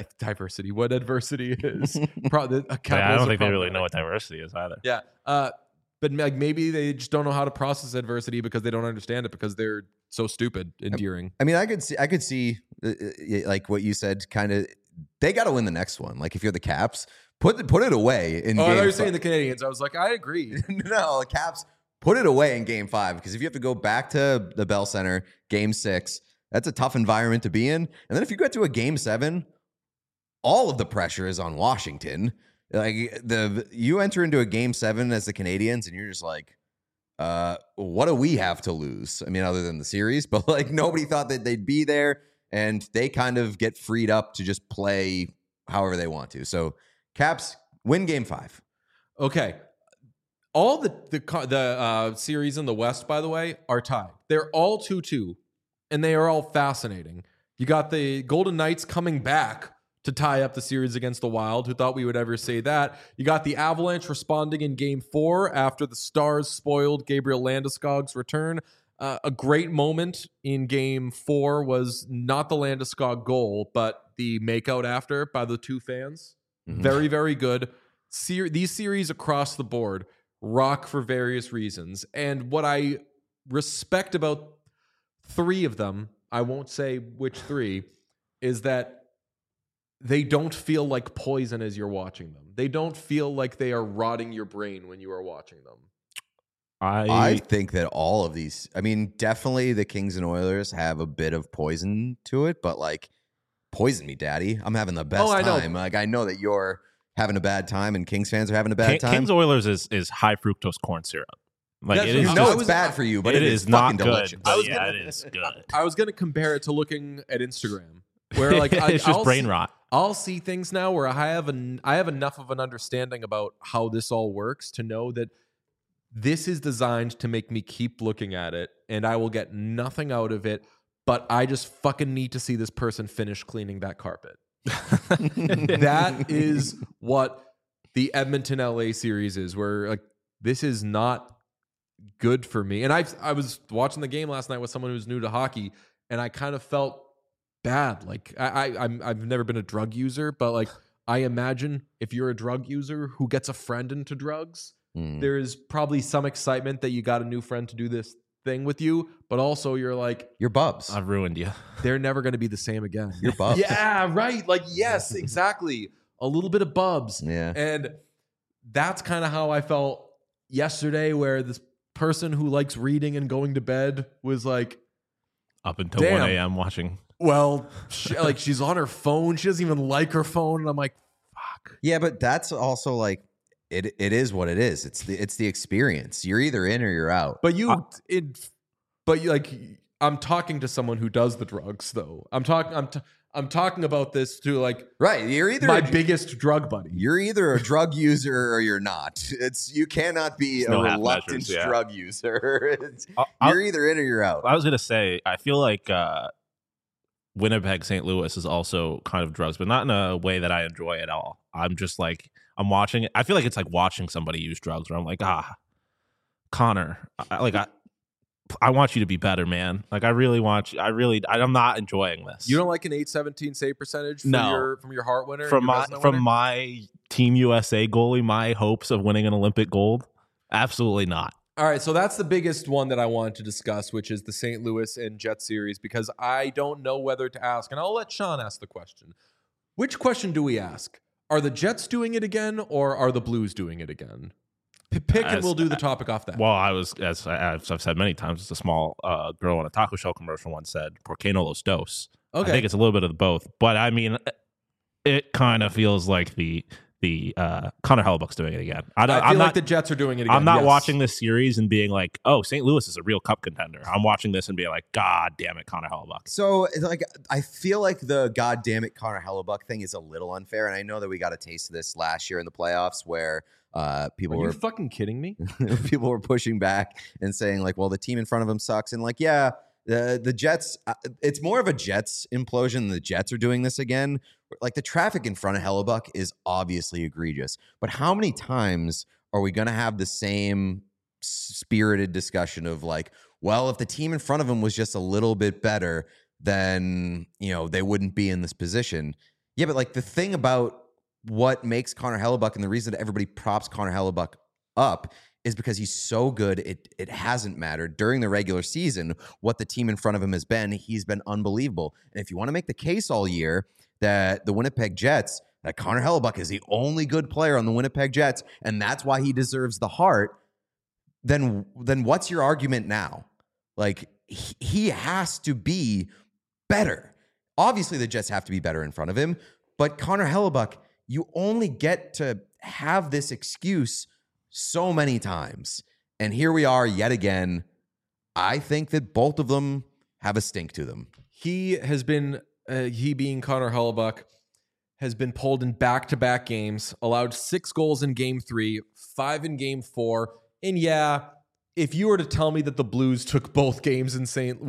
is. I don't think they really know what diversity is either. Yeah. But like maybe they just don't know how to process adversity because they don't understand it because they're so stupid, endearing. I mean, I could see like what you said, kind of, they got to win the next one. Like if you're the Caps, put it away in game 5. I thought you were saying the Canadiens. I was like, I agree. No, the Caps, put it away in game 5 because if you have to go back to the Bell Center, game 6, that's a tough environment to be in. And then if you get to a game 7, all of the pressure is on Washington. Like you enter into a game 7 as the Canadiens and you're just like, what do we have to lose? I mean, other than the series, but like nobody thought that they'd be there and they kind of get freed up to just play however they want to. So Caps win game 5. Okay. All the series in the West, by the way, are tied. They're all 2-2 and they are all fascinating. You got the Golden Knights coming back to tie up the series against the Wild. Who thought we would ever say that? You got the Avalanche responding in game 4 after the Stars spoiled Gabriel Landeskog's return. A great moment in game 4 was not the Landeskog goal, but the makeout after by the two fans. Mm-hmm. Very, very good. These series across the board rock for various reasons. And what I respect about 3 of them, I won't say which 3, is that they don't feel like poison as you're watching them. They don't feel like they are rotting your brain when you are watching them. I think that all of these, I mean, definitely the Kings and Oilers have a bit of poison to it, but like, poison me, daddy. I'm having the best time. Like, I know that you're having a bad time and Kings fans are having a bad time. Kings Oilers is high fructose corn syrup. Like it is, it's bad for you, but it is not fucking delicious. It is good. I was going to compare it to looking at Instagram, where like it's just brain rot. I'll see things now where I have enough of an understanding about how this all works to know that this is designed to make me keep looking at it, and I will get nothing out of it, but I just fucking need to see this person finish cleaning that carpet. That is what the Edmonton LA series is, where like this is not good for me. And I was watching the game last night with someone who's new to hockey, and I kind of felt bad. Like I've never been a drug user, but like I imagine if you're a drug user who gets a friend into drugs, there is probably some excitement that you got a new friend to do this thing with you, but also you're like, You're bubs. I've ruined you. they're never going to be the same again. You're bubs. Yeah, right. Like, yes, exactly. A little bit of bubs. Yeah. And that's kind of how I felt yesterday, where this person who likes reading and going to bed was like, Up until Damn. 1 a.m. watching. well, she's on her phone. She doesn't even like her phone. And I'm like, fuck. Yeah, but that's also like it is what it is. It's the experience. You're either in or you're out. But I'm talking to someone who does the drugs, though. I'm talking about this to like Right. You're either my biggest drug buddy. You're either a drug user or you're not. You cannot be no a half reluctant measures, yeah. drug user. I'll- You're either in or you're out. I was gonna say, I feel like Winnipeg, St. Louis is also kind of drugs, but not in a way that I enjoy at all. I'm just like, I'm watching it. I feel like it's like watching somebody use drugs, where I'm like, Connor, I want you to be better, man. Like, I'm not enjoying this. You don't like an 817 save percentage from your Hart winner? from your my Vezina from winner? my Team USA goalie, my hopes of winning an Olympic gold? Absolutely not. All right, so that's the biggest one that I wanted to discuss, which is the St. Louis and Jets series, because I don't know whether to ask, and I'll let Sean ask the question. Which question do we ask? Are the Jets doing it again, or are the Blues doing it again? Pick, and we'll do the topic off that. Well, as I've said many times, it's a small girl in a taco shell commercial once said, "Por qué no los dos?" Okay. I think it's a little bit of both, but I mean, it kind of feels like the Connor Hellebuck's doing it again. I feel I'm like not the Jets are doing it again. I'm not yes. watching this series and being like, "Oh, St. Louis is a real cup contender." I'm watching this and being like, "God damn it, Connor Hellebuck." So, like, I feel like the goddamn it Connor Hellebuck thing is a little unfair, and I know that we got a taste of this last year in the playoffs, where people Are were you fucking kidding me? people were pushing back and saying like, well, the team in front of him sucks, and like, yeah, the Jets. It's more of a Jets implosion. The Jets are doing this again. Like, the traffic in front of Hellebuck is obviously egregious, but how many times are we going to have the same spirited discussion of like, well, if the team in front of him was just a little bit better, then, you know, they wouldn't be in this position. Yeah, but like, the thing about what makes Connor Hellebuck and the reason that everybody props Connor Hellebuck up is because he's so good. It hasn't mattered during the regular season what the team in front of him has been. He's been unbelievable. And if you want to make the case all year that the Winnipeg Jets, that Connor Hellebuck is the only good player on the Winnipeg Jets, and that's why he deserves the Hart, then what's your argument now? Like, he has to be better. Obviously, the Jets have to be better in front of him, but Connor Hellebuck, you only get to have this excuse so many times. And here we are yet again. I think that both of them have a stink to them. He has been, he being Connor Hellebuck, has been pulled in back-to-back games, allowed 6 goals in Game 3, 5 in Game 4. And yeah, if you were to tell me that the Blues took both games in St.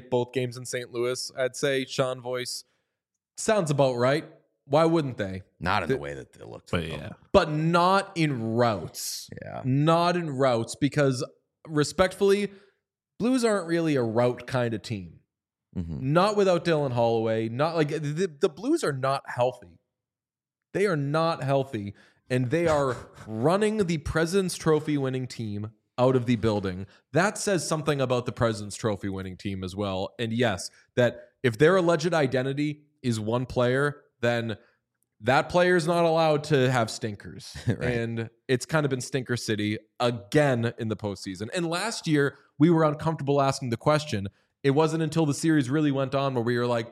Louis, I'd say Sean Voice sounds about right. Why wouldn't they? Not in the way that they looked. But yeah, But not in routes. Yeah. Not in routes, because respectfully, Blues aren't really a route kind of team. Mm-hmm. Not without Dylan Holloway. Not like the Blues are not healthy. They are not healthy, and they are running the President's Trophy winning team out of the building. That says something about the President's Trophy winning team as well. And yes, that if their alleged identity is one player, then that player is not allowed to have stinkers. Right. And it's kind of been Stinker City again in the postseason. And last year, we were uncomfortable asking the question. It wasn't until the series really went on where we were like,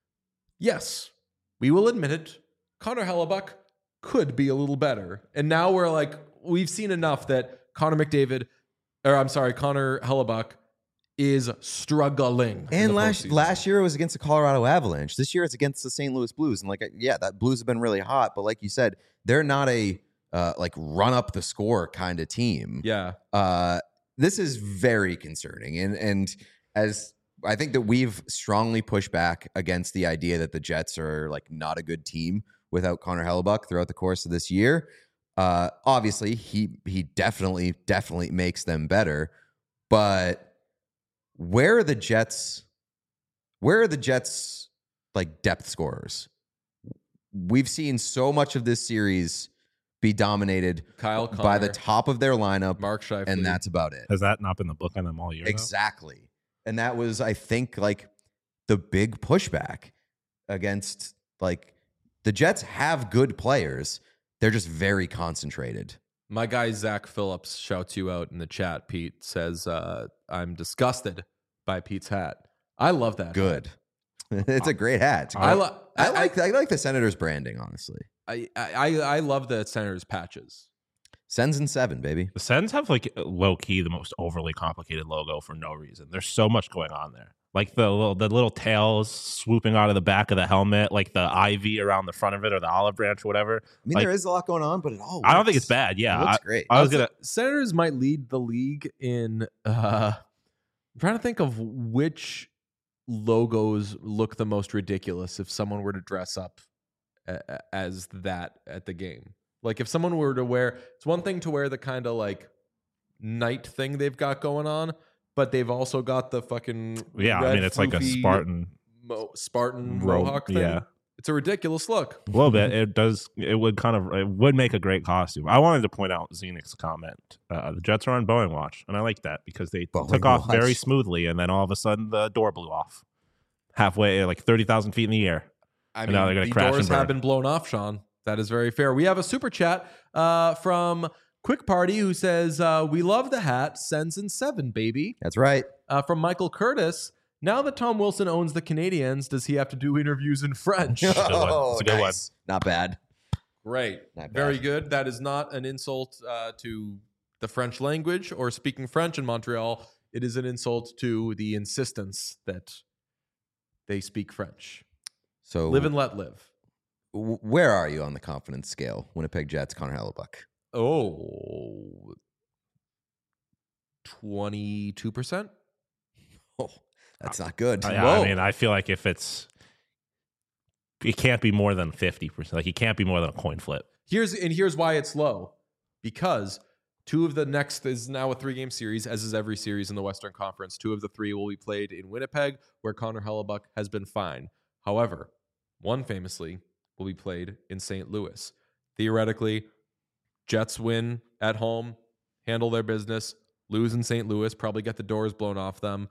yes, we will admit it. Connor Hellebuck could be a little better. And now we're like, we've seen enough that Connor Hellebuck is struggling. And last year it was against the Colorado Avalanche. This year it's against the St. Louis Blues. And like, yeah, that Blues have been really hot. But like you said, they're not a like run up the score kind of team. Yeah. This is very concerning. And as I think that we've strongly pushed back against the idea that the Jets are like not a good team without Connor Hellebuck throughout the course of this year. Obviously, he definitely makes them better. But where are the Jets like depth scorers? We've seen so much of this series be dominated Kyle by Connor, the top of their lineup, Mark Scheifele. and that's about it. Has that not been the book on them all year? Exactly. And that was, I think, like the big pushback against, like, the Jets have good players. They're just very concentrated. My guy Zach Phillips shouts you out in the chat. Pete says, I'm disgusted by Pete's hat. I love that. Good. It's a great hat. I like the Senators branding, honestly. I love the Senators patches. Sens and 7, baby. The Sens have like low key the most overly complicated logo for no reason. There's so much going on there. Like the little tails swooping out of the back of the helmet, like the ivy around the front of it, or the olive branch or whatever. I mean, like, there is a lot going on, but it all I don't think it's bad. Yeah, it looks great. Senators might lead the league in. I'm trying to think of which logos look the most ridiculous if someone were to dress up as that at the game. Like if someone were to wear, it's one thing to wear the kind of like knight thing they've got going on, but they've also got the fucking I mean it's like a Spartan mohawk thing. Yeah, it's a ridiculous look. A little bit. It would make a great costume. I wanted to point out Zenek's comment. The Jets are on Boeing watch, and I like that because they took off very smoothly, and then all of a sudden the door blew off halfway, like 30,000 feet in the air. I mean, now they're going to the crash doors and burn. have been blown off, Sean. That is very fair. We have a super chat from Quick Party who says, we love the hat. Sens and 7, baby. That's right. From Michael Curtis. Now that Tom Wilson owns the Canadiens, does he have to do interviews in French? It's a good one. Not bad. Great. Not bad. Very good. That is not an insult to the French language or speaking French in Montreal. It is an insult to the insistence that they speak French. So live and let live. Where are you on the confidence scale? Winnipeg Jets, Connor Hellebuck. Oh, 22%. Oh, that's not good. I mean, I feel like if it can't be more than 50%. Like it can't be more than a coin flip. Here's why it's low. Because 2 of the next is now a 3-game series, as is every series in the Western Conference. 2 of the 3 will be played in Winnipeg, where Connor Hellebuck has been fine. However, one famously will be played in St. Louis. Theoretically, Jets win at home, handle their business, lose in St. Louis, probably get the doors blown off them.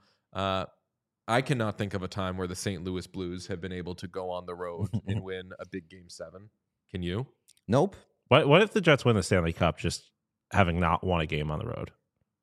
I cannot think of a time where the St. Louis Blues have been able to go on the road and win a big Game 7. Can you? Nope. What if the Jets win the Stanley Cup just having not won a game on the road?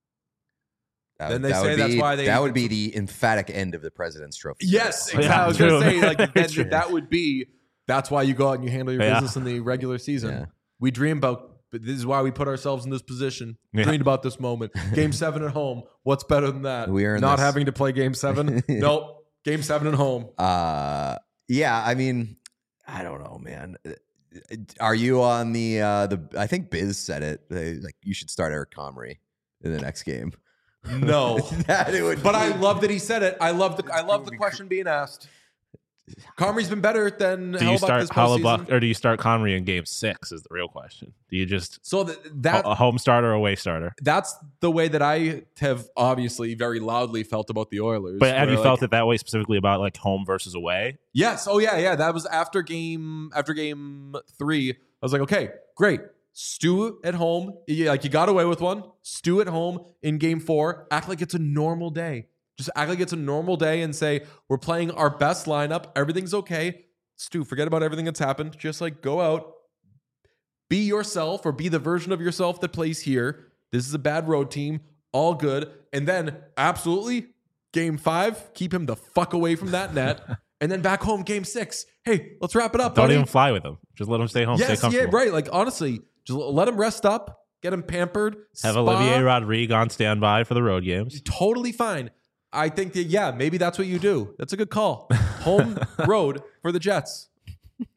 Then they say that's why they... That would be the emphatic end of the President's Trophy. Yes, exactly. I was going to say, like, that would be... That's why you go out and you handle your business in the regular season. Yeah. We dream about, but this is why we put ourselves in this position. Yeah. Dreamed about this moment. Game 7 at home. What's better than that? We are not having to play Game 7. Nope. Game 7 at home. Yeah. I mean, I don't know, man. Are you on the? I think Biz said it. Like you should start Eric Comrie in the next game. No, I love that he said it. I love the question being asked. Comrie's been better than do you start Hellebuck or do you start Comrie in Game 6 is the real question. Do you just that a home starter or away starter? That's the way that I have obviously very loudly felt about the Oilers. But have you felt it that way specifically about like home versus away? Yes. Oh yeah. That was after game 3. I was like, okay, great. Stew at home. Like you got away with one. Stew at home in Game 4. Act like it's a normal day. Just act like it's a normal day and say, we're playing our best lineup. Everything's okay. Stu, forget about everything that's happened. Just like go out, be yourself or be the version of yourself that plays here. This is a bad road team. All good. And then absolutely Game 5, keep him the fuck away from that net. And then back home, Game 6. Hey, let's wrap it up. Don't buddy. even fly with him. Just let him stay home. Yes, stay comfortable. Yeah, right. Like honestly, just let him rest up, get him pampered. Have Olivier Rodrigue on standby for the road games. Totally fine. I think that, yeah, maybe that's what you do. That's a good call. Home road for the Jets.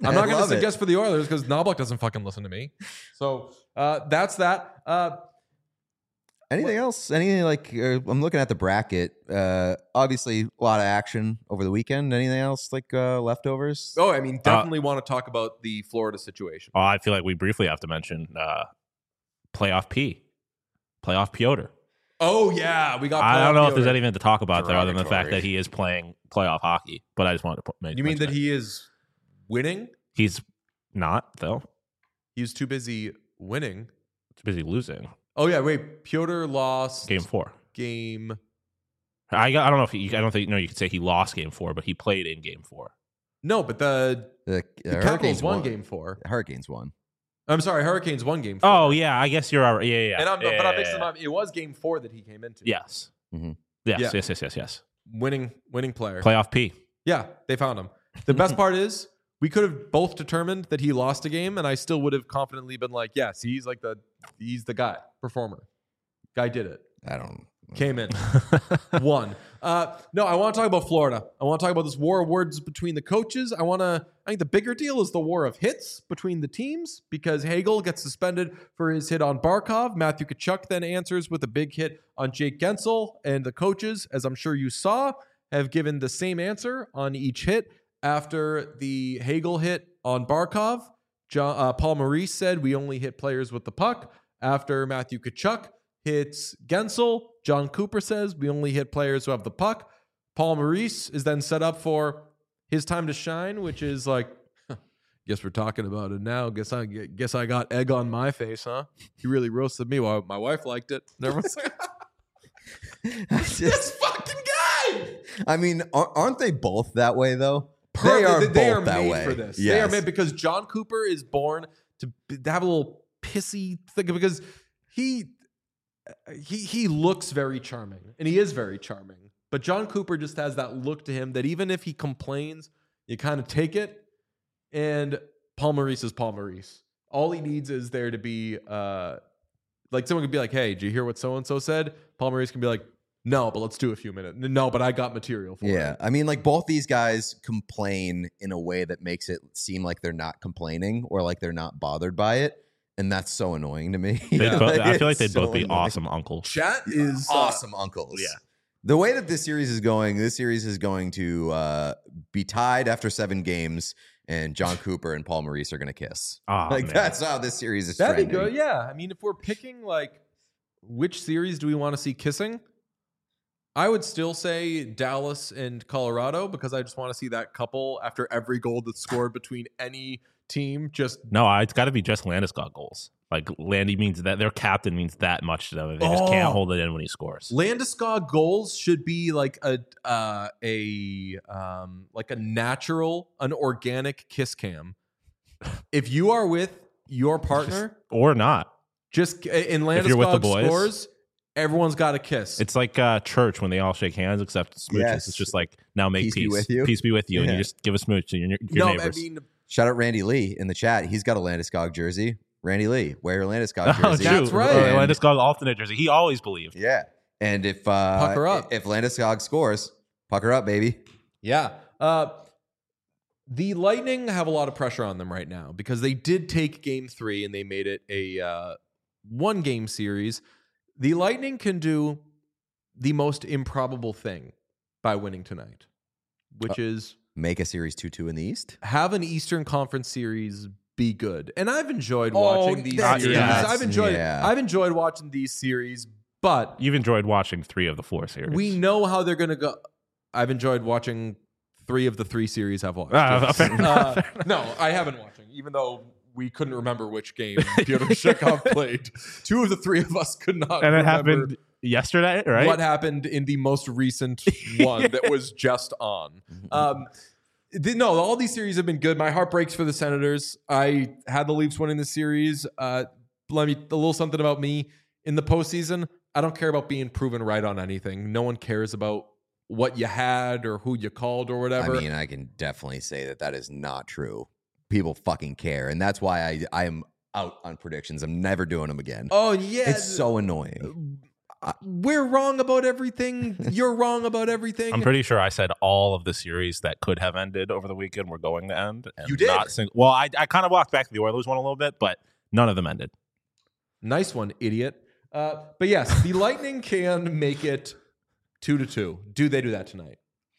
I'm not going to love it. suggest for the Oilers because Knoblauch doesn't fucking listen to me. So that's that. Anything else? Anything like I'm looking at the bracket. Obviously, a lot of action over the weekend. Anything else like leftovers? Oh, I mean, definitely want to talk about the Florida situation. Oh, I feel like we briefly have to mention playoff Piotr. Oh yeah, we got. I don't know if Piotr. there's anything to talk about there other than the fact Derogatory. that he is playing playoff hockey. But I just wanted to mention You mean that it. he is winning? He's not though. He's too busy winning. He's busy losing. Oh yeah, wait. Piotr lost Game 4. Game. I don't know if I don't think you could say he lost Game 4, but he played in Game 4. No, but the Hurricanes Capitals won Game 4. The Hurricanes won. I'm sorry, Hurricanes won Game 4. Oh yeah, I guess you're right. Yeah. And I'm mixing yeah. them up. It was Game 4 that he came into. Yes. Mhm. Yes. Yeah. Yes. Winning player. Playoff P. Yeah, they found him. The best part is we could have both determined that he lost a game, and I still would have confidently been like, yes, he's the guy, performer. Guy did it. I don't. Came in. Won. No, I want to talk about Florida. I want to talk about this war of words between the coaches. I think the bigger deal is the war of hits between the teams because Hagel gets suspended for his hit on Barkov. Matthew Tkachuk then answers with a big hit on Jake Gensel. And the coaches, as I'm sure you saw, have given the same answer on each hit. After the Hagel hit on Barkov, Paul Maurice said, we only hit players with the puck. After Matthew Tkachuk hits Gensel, John Cooper says, we only hit players who have the puck. Paul Maurice is then set up for his time to shine, which is like, guess we're talking about it now. Guess I got egg on my face, huh? He really roasted me. Well, my wife liked it. And everyone's like, this fucking guy! I mean, aren't they both that way though? They are both made that way for this. Yes. They are made because John Cooper is born to have a little pissy thing because he looks very charming and he is very charming. But John Cooper just has that look to him that even if he complains, you kind of take it. And Paul Maurice is Paul Maurice. All he needs is there to be like someone could be like, hey, did you hear what so-and-so said? Paul Maurice can be like, no, but let's do a few minutes. No, but I got material for it. Yeah, I mean, like both these guys complain in a way that makes it seem like they're not complaining or like they're not bothered by it, and that's so annoying to me. I feel like they'd It's so both be annoying. awesome uncles. Chat is Awesome uncles. Yeah. The way that this series is going to be tied after 7 games, and John Cooper and Paul Maurice are going to kiss. Oh, like man. that's how this series is That'd trending. be good. Yeah. I mean, if we're picking like which series do we want to see kissing? I would still say Dallas and Colorado because I just want to see that couple after every goal that's scored between any team. Just No, it's got to be just Landeskog goals. Like Landy means that their captain means that much to them. They just can't hold it in when he scores. Landeskog goals should be like a natural, an organic kiss cam. If you are with your partner, Or not. just in If you're with the Landeskog boys. scores, everyone's got a kiss. It's like church when they all shake hands except smooches. Yes. It's just like, now make Peace peace. be with you. Peace be with you. And Yeah. you just give a smooch to your no, neighbors. I mean, Shout out Randy Lee in the chat. He's got a Landeskog jersey. Randy Lee, wear your Landeskog Oh, jersey. That's true. right. And- Landeskog alternate jersey. He always believed. Yeah. And if Pucker up. if Landeskog scores, pucker up, baby. yeah. The Lightning have a lot of pressure on them right now because they did take Game 3 and they made it a one-game series. The Lightning can do the most improbable thing by winning tonight, which is Make a series 2-2 in the East. have an Eastern Conference series be good. And I've enjoyed watching these that's- series. yeah. I've enjoyed watching these series, but You've enjoyed watching 3 of the 4 series. we know how they're going to go. I've enjoyed watching 3 of the 3 series I've watched. Fair enough. No, I haven't watching, even though we couldn't remember which game Pyotr Shekov played. 2 of the 3 of us could not And it remember happened yesterday, right? what happened in the most recent one that was just on. No, all these series have been good. My heart breaks for the Senators. I had the Leafs winning the series. Let me a little something about me in the postseason. I don't care about being proven right on anything. No one cares about what you had or who you called or whatever. I mean, I can definitely say that is not true. People fucking care. And that's why I am out on predictions. I'm never doing them again. Oh yeah, It's so annoying. We're wrong about everything. You're wrong about everything. I'm pretty sure I said all of the series that could have ended over the weekend were going to end. And You did? Well, I kind of walked back to the Oilers one a little bit, but none of them ended. Nice one, idiot. But yes, the Lightning can make it 2-2. Do they do that tonight?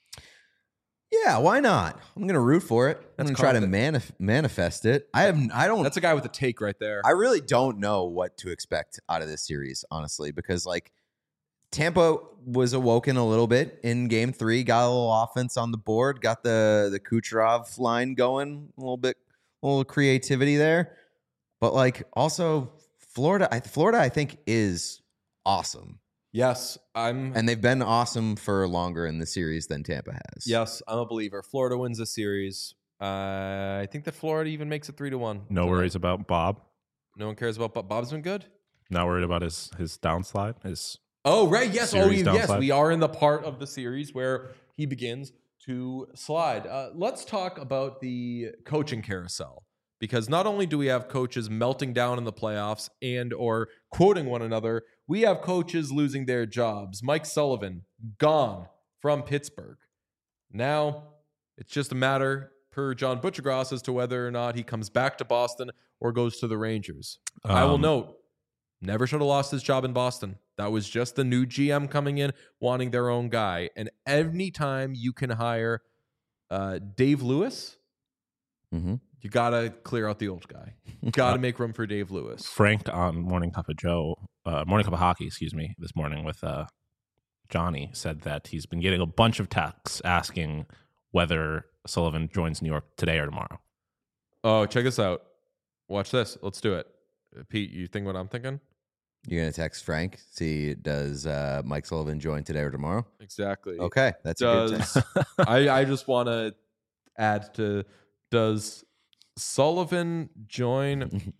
Yeah, why not? I'm going to root for it. I'm going to try to manifest it. I don't. That's a guy with a take right there. I really don't know what to expect out of this series, honestly, because like Tampa was awoken a little bit in Game 3, got a little offense on the board, got the Kucherov line going, a little creativity there, but like also Florida, I think is awesome. Yes, and they've been awesome for longer in the series than Tampa has. Yes, I'm a believer. Florida wins the series. I think that Florida even makes it 3-1. No worries about Bob. No one cares about Bob. Bob's been good. Not worried about his downslide. Oh right, yes. Yes. Downslide. We are in the part of the series where he begins to slide. Let's talk about the coaching carousel. Because not only do we have coaches melting down in the playoffs and or quoting one another, we have coaches losing their jobs. Mike Sullivan, gone from Pittsburgh. Now, it's just a matter, per John Butchergross, as to whether or not he comes back to Boston or goes to the Rangers. I will note, never should have lost his job in Boston. That was just the new GM coming in, wanting their own guy. And any time you can hire Dave Lewis, you got to clear out the old guy. You got to make room for Dave Lewis. Frank on Morning Cup of Hockey, this morning with Johnny said that he's been getting a bunch of texts asking whether Sullivan joins New York today or tomorrow. Oh, check this out. Watch this. Let's do it. Pete, you think what I'm thinking? You're going to text Frank, see, does Mike Sullivan join today or tomorrow? Exactly. Okay, that's a good text. I just want to add to, does Sullivan join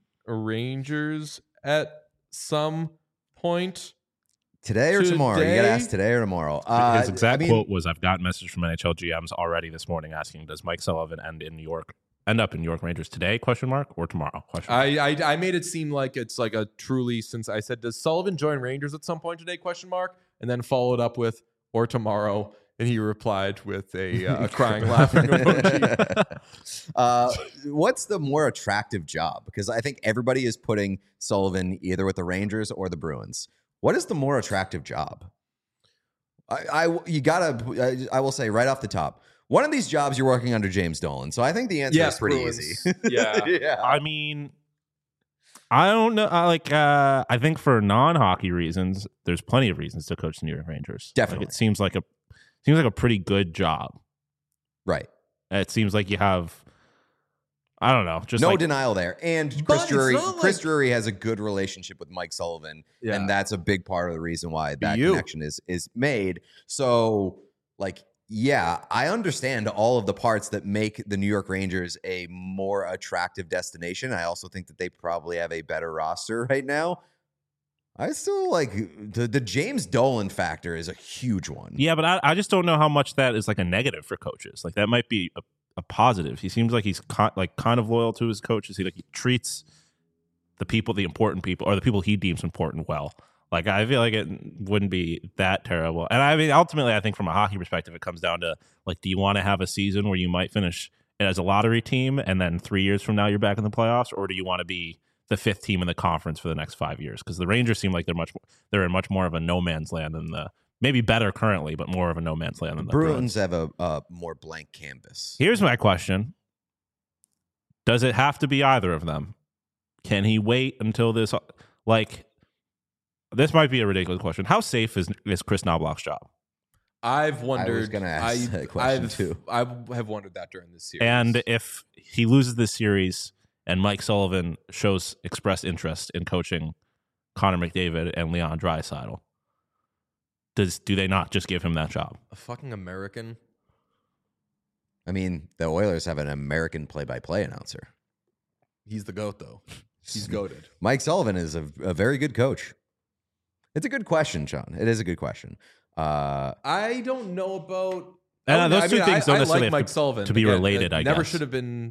Rangers at some point? Today or tomorrow? You got to ask today or tomorrow. His exact quote was, I've gotten messages from NHL GMs already this morning asking, does Mike Sullivan end up in New York Rangers today, or tomorrow? I made it seem like it's like a truly, since I said, does Sullivan join Rangers at some point today, and then followed up with, or tomorrow. And he replied with a crying, laughing emoji. What's the more attractive job? Because I think everybody is putting Sullivan either with the Rangers or the Bruins. What is the more attractive job? I will say right off the top, one of these jobs you're working under James Dolan. So I think the answer is pretty easy. Yeah. I mean, I don't know. I think for non-hockey reasons, there's plenty of reasons to coach the New York Rangers. Definitely. It seems like a pretty good job. Right. It seems like you have, I don't know, just no denial there. And Chris Drury has a good relationship with Mike Sullivan, and that's a big part of the reason why that connection is made. So, yeah, I understand all of the parts that make the New York Rangers a more attractive destination. I also think that they probably have a better roster right now. I still like the James Dolan factor is a huge one. Yeah, but I just don't know how much that is like a negative for coaches. Like that might be a positive. He seems like he's kind of loyal to his coaches. He treats the important people, or the people he deems important, well. Like I feel like it wouldn't be that terrible. And I mean, ultimately, I think from a hockey perspective, it comes down to do you want to have a season where you might finish as a lottery team, and then 3 years from now you're back in the playoffs, or do you want to be the fifth team in the conference for the next 5 years? Because the Rangers seem like they're in much more of a no man's land than maybe better currently, but more of a no man's land than the Bruins have a more blank canvas. Here's my question: does it have to be either of them? Can he wait until this? This might be a ridiculous question. How safe is Chris Knobloch's job? I've wondered. I was going to ask that question too. I have wondered that during this series. And if he loses this series, and Mike Sullivan shows expressed interest in coaching Connor McDavid and Leon Draisaitl, do they not just give him that job? A fucking American. I mean, the Oilers have an American play-by-play announcer. He's the GOAT, though. He's goated. Mike Sullivan is a very good coach. It's a good question, Sean. It is a good question. I don't know about... Those two things don't necessarily like Mike Sullivan to be related, I guess. Never should have been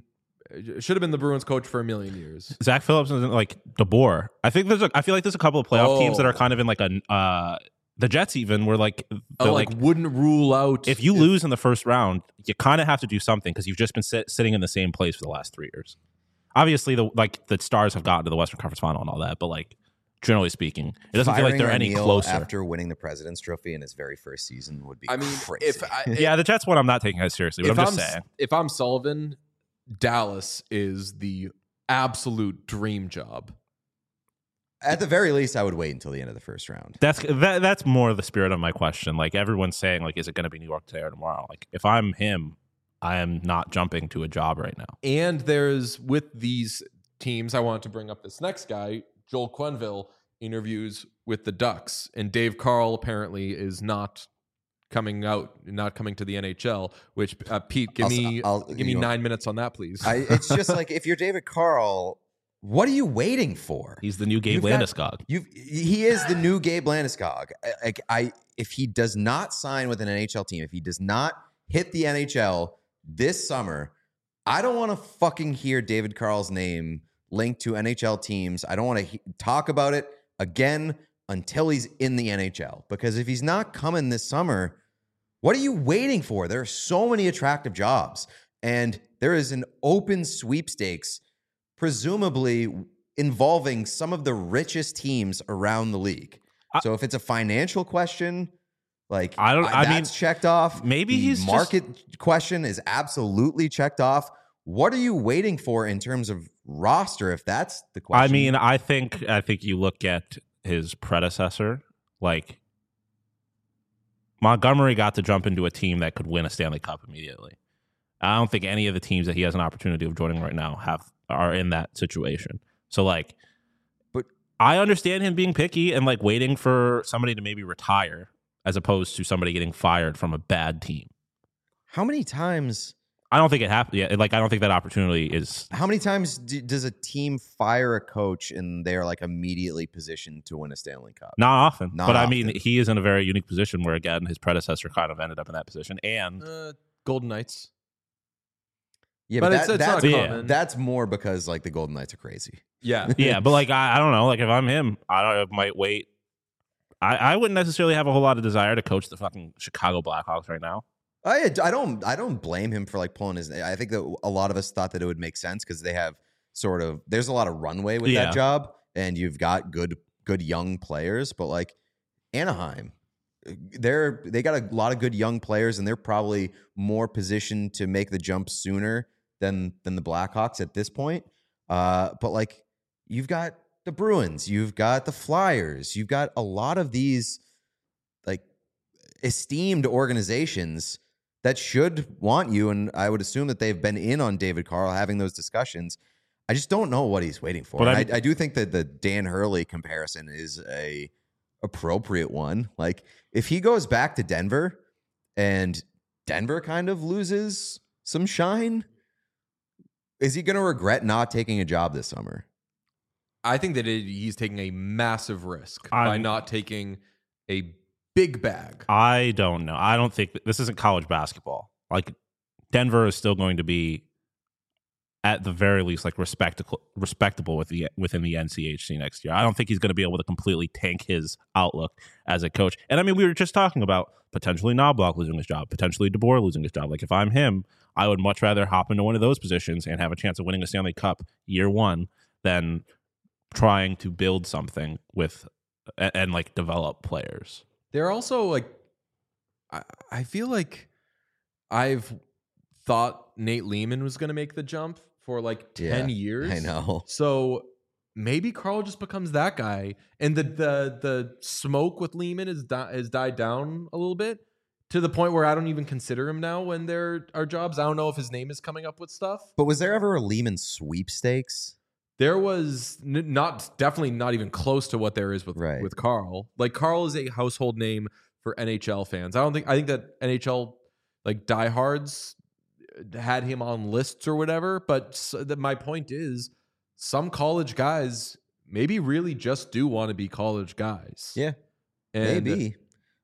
should have been the Bruins coach for a million years. Zach Phillips isn't like DeBoer. I feel like there's a couple of playoff teams that are kind of in like the Jets even were like wouldn't rule out if you lose in the first round, you kind of have to do something because you've just been sitting in the same place for the last 3 years. Obviously, the Stars have gotten to the Western Conference Final and all that, but like generally speaking, it doesn't feel like they're any closer. After winning the President's Trophy in his very first season would be crazy. Yeah, the Jets one I'm not taking as seriously, but I'm just saying. If I'm Sullivan, Dallas is the absolute dream job. At the very least, I would wait until the end of the first round. That's more the spirit of my question. Like everyone's saying, like, is it going to be New York today or tomorrow? Like if I'm him, I am not jumping to a job right now. And there's with these teams, I want to bring up this next guy, Joel Quenneville, interviews with the Ducks, and Dave Carl apparently is not coming to the NHL. Which Pete, give me 9 minutes on that, please. It's just like if you're David Carl, what are you waiting for? He's the new Gabe Landeskog. He is the new Gabe Landeskog. If he does not sign with an NHL team, if he does not hit the NHL this summer, I don't want to fucking hear David Carl's name linked to NHL teams. I don't want to talk about it again until he's in the NHL. Because if he's not coming this summer, what are you waiting for? There are so many attractive jobs. And there is an open sweepstakes, presumably involving some of the richest teams around the league. So if it's a financial question, like that's checked off. Maybe the market question is absolutely checked off. What are you waiting for in terms of roster? If that's the question, I mean, I think you look at his predecessor. Like Montgomery got to jump into a team that could win a Stanley Cup immediately. I don't think any of the teams that he has an opportunity of joining right now are in that situation. So like, but I understand him being picky and like waiting for somebody to maybe retire as opposed to somebody getting fired from a bad team. How many times? I don't think it happened. Yeah, like I don't think that opportunity is. How many times does a team fire a coach and they are like immediately positioned to win a Stanley Cup? Not often. I mean, he is in a very unique position where again his predecessor kind of ended up in that position. And Golden Knights. Yeah, but that's not common. That's more because like the Golden Knights are crazy. Yeah, yeah, but like I don't know. Like if I'm him, I might wait. I wouldn't necessarily have a whole lot of desire to coach the fucking Chicago Blackhawks right now. I don't blame him for like pulling his. I think that a lot of us thought that it would make sense because they have there's a lot of runway with that job, and you've got good young players. But like Anaheim, they got a lot of good young players, and they're probably more positioned to make the jump sooner than the Blackhawks at this point. But like you've got the Bruins, you've got the Flyers, you've got a lot of these like esteemed organizations that should want you, and I would assume that they've been in on David Carl having those discussions. I just don't know what he's waiting for. But I do think that the Dan Hurley comparison is a appropriate one. Like if he goes back to Denver and Denver kind of loses some shine, is he going to regret not taking a job this summer? I think that he's taking a massive risk by not taking a big bag. I don't know. I don't think this isn't college basketball. Like Denver is still going to be at the very least like respectable within the NCHC next year. I don't think he's going to be able to completely tank his outlook as a coach. And I mean, we were just talking about potentially Knobloch losing his job, potentially DeBoer losing his job. Like if I'm him, I would much rather hop into one of those positions and have a chance of winning a Stanley Cup year one than trying to build something with and like develop players. They're also like, I feel like I've thought Nate Lehman was going to make the jump for like 10 years. I know. So maybe Carl just becomes that guy, and the smoke with Lehman has died down a little bit to the point where I don't even consider him now when there are jobs. I don't know if his name is coming up with stuff. But was there ever a Lehman sweepstakes? There was definitely not even close to what there is with Carl. Like Carl is a household name for NHL fans. I think that NHL like diehards had him on lists or whatever. But my point is, some college guys maybe really just do want to be college guys. Yeah, and maybe.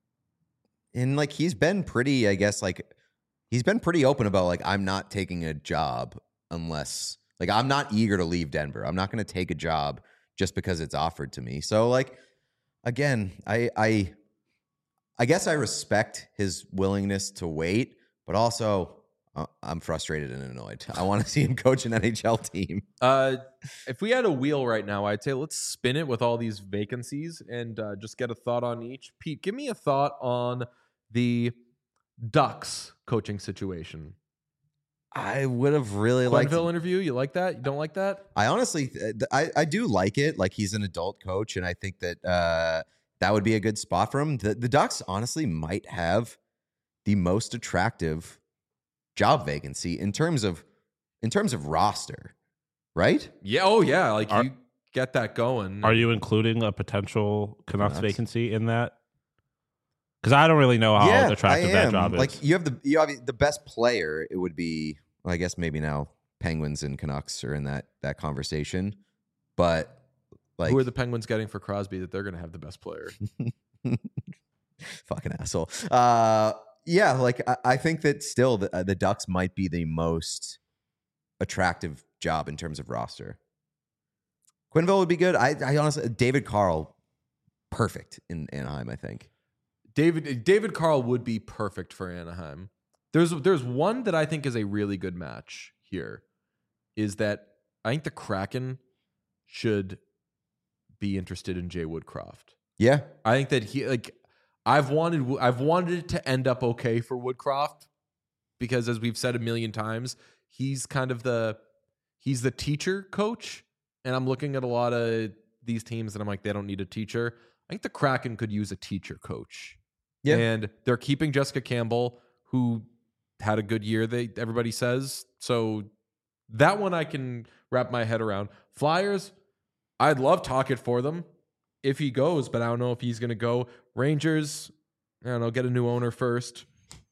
And like he's been pretty, I guess, like he's been pretty open about like I'm not taking a job unless like I'm not eager to leave Denver. I'm not going to take a job just because it's offered to me. So like again, I guess I respect his willingness to wait, but also I'm frustrated and annoyed. I want to see him coach an NHL team. If we had a wheel right now, I'd say let's spin it with all these vacancies and just get a thought on each. Pete, give me a thought on the Ducks coaching situation. I would have really liked Quenneville interview. You like that? You don't like that? I honestly, I do like it. Like he's an adult coach, and I think that that would be a good spot for him. The Ducks honestly might have the most attractive job vacancy in terms of roster, right? Yeah. Oh, yeah. Like you get that going. Are you including a potential Canucks vacancy in that? Because I don't really know how attractive that job is. Like you have the best player. It would be, well, I guess maybe now Penguins and Canucks are in that conversation, but like who are the Penguins getting for Crosby that they're going to have the best player? Fucking asshole. Yeah, like I think that still the Ducks might be the most attractive job in terms of roster. Quenneville would be good. I honestly, David Carl, perfect in Anaheim, I think. David Carl would be perfect for Anaheim. There's one that I think is a really good match here, is that I think the Kraken should be interested in Jay Woodcroft. Yeah. I think that he like I've wanted it to end up okay for Woodcroft because as we've said a million times, he's kind of he's the teacher coach, and I'm looking at a lot of these teams and I'm like, they don't need a teacher. I think the Kraken could use a teacher coach. Yeah. And they're keeping Jessica Campbell, who had a good year, everybody says. So that one I can wrap my head around. Flyers, I'd love Tocchet for them if he goes, but I don't know if he's going to go. Rangers, I don't know, get a new owner first.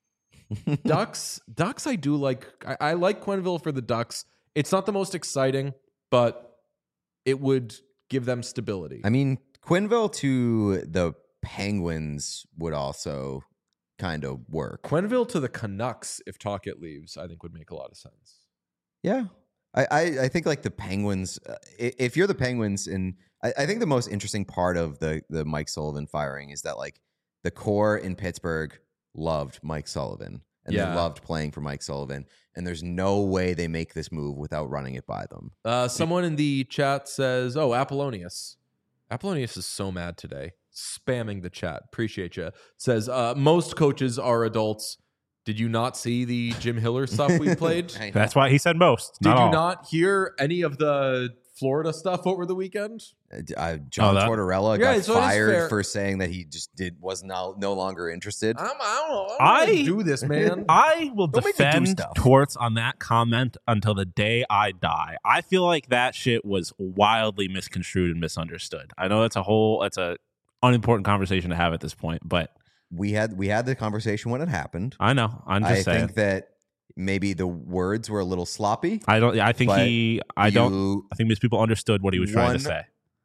Ducks, I do like. I like Quenneville for the Ducks. It's not the most exciting, but it would give them stability. I mean, Quenneville to the Penguins would also kind of work. Quenneville to the Canucks, if Tocchet leaves, I think would make a lot of sense. Yeah. I think like the Penguins, if you're the Penguins, and I think the most interesting part of the Mike Sullivan firing is that like the core in Pittsburgh loved Mike Sullivan and they loved playing for Mike Sullivan. And there's no way they make this move without running it by them. Someone in the chat says, oh, Apollonius. Apollonius is so mad today. Spamming the chat. Appreciate you. Says, most coaches are adults. Did you not see the Jim Hiller stuff we played? That's why he said most. Did you not hear any of the Florida stuff over the weekend? John Tortorella got fired for saying that he just was no longer interested. I don't know. Do this, man. I will defend Torts on that comment until the day I die. I feel like that shit was wildly misconstrued and misunderstood. I know that's a unimportant conversation to have at this point, but we had the conversation when it happened. I know. I'm just saying. I think that maybe the words were a little sloppy. I think these people understood what he was trying to say.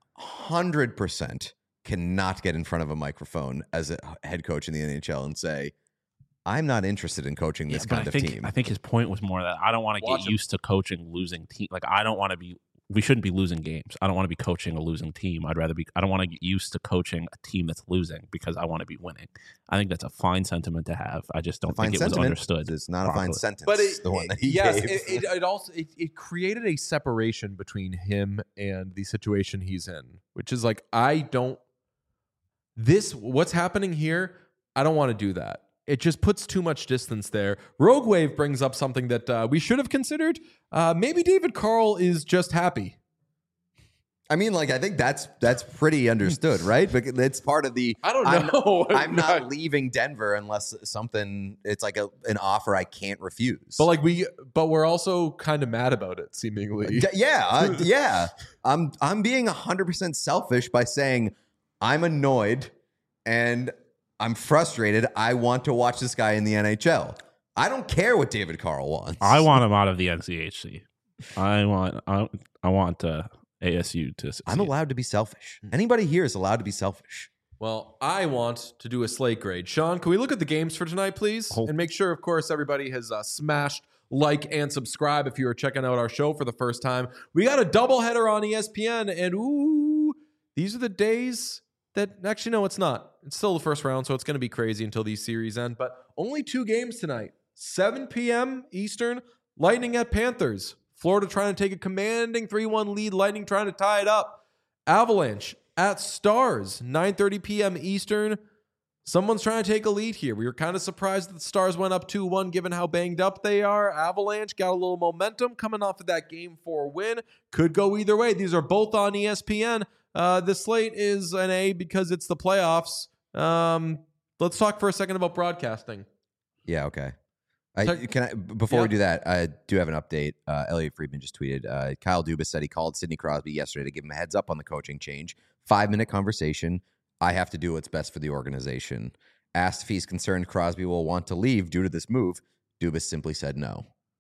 100% cannot get in front of a microphone as a head coach in the NHL and say, I'm not interested in coaching this kind of team. I think his point was more that I don't want to get used to coaching losing team. Like we shouldn't be losing games. I don't want to be coaching a losing team. I don't want to get used to coaching a team that's losing because I want to be winning. I think that's a fine sentiment to have. I just don't think it was understood. It's not properly. A fine sentence. But the one that he gave. It also created a separation between him and the situation he's in, which is like, what's happening here, I don't want to do that. It just puts too much distance there. Rogue Wave brings up something that we should have considered. Maybe David Carl is just happy. I mean, like, I think that's pretty understood, right? But it's part of the. I don't know. I'm not leaving Denver unless it's like an offer I can't refuse. But we're also kind of mad about it, seemingly. Yeah. I'm being 100% selfish by saying I'm annoyed and I'm frustrated. I want to watch this guy in the NHL. I don't care what David Carl wants. I want him out of the NCHC. I want ASU to succeed. I'm allowed to be selfish. Anybody here is allowed to be selfish. Well, I want to do a slate grade. Sean, can we look at the games for tonight, please? And make sure, of course, everybody has smashed like, and subscribe if you are checking out our show for the first time. We got a doubleheader on ESPN, and ooh, these are the days that actually, no, it's not. It's still the first round, so it's going to be crazy until these series end. But only 2 games tonight. 7 p.m. Eastern, Lightning at Panthers. Florida trying to take a commanding 3-1 lead. Lightning trying to tie it up. Avalanche at Stars, 9:30 p.m. Eastern. Someone's trying to take a lead here. We were kind of surprised that the Stars went up 2-1 given how banged up they are. Avalanche got a little momentum coming off of that Game 4 win. Could go either way. These are both on ESPN. The slate is an A because it's the playoffs. Let's talk for a second about broadcasting. Yeah, okay. Before we do that, I do have an update. Elliot Friedman just tweeted. Kyle Dubas said he called Sidney Crosby yesterday to give him a heads up on the coaching change. 5-minute conversation. I have to do what's best for the organization. Asked if he's concerned Crosby will want to leave due to this move, Dubas simply said no.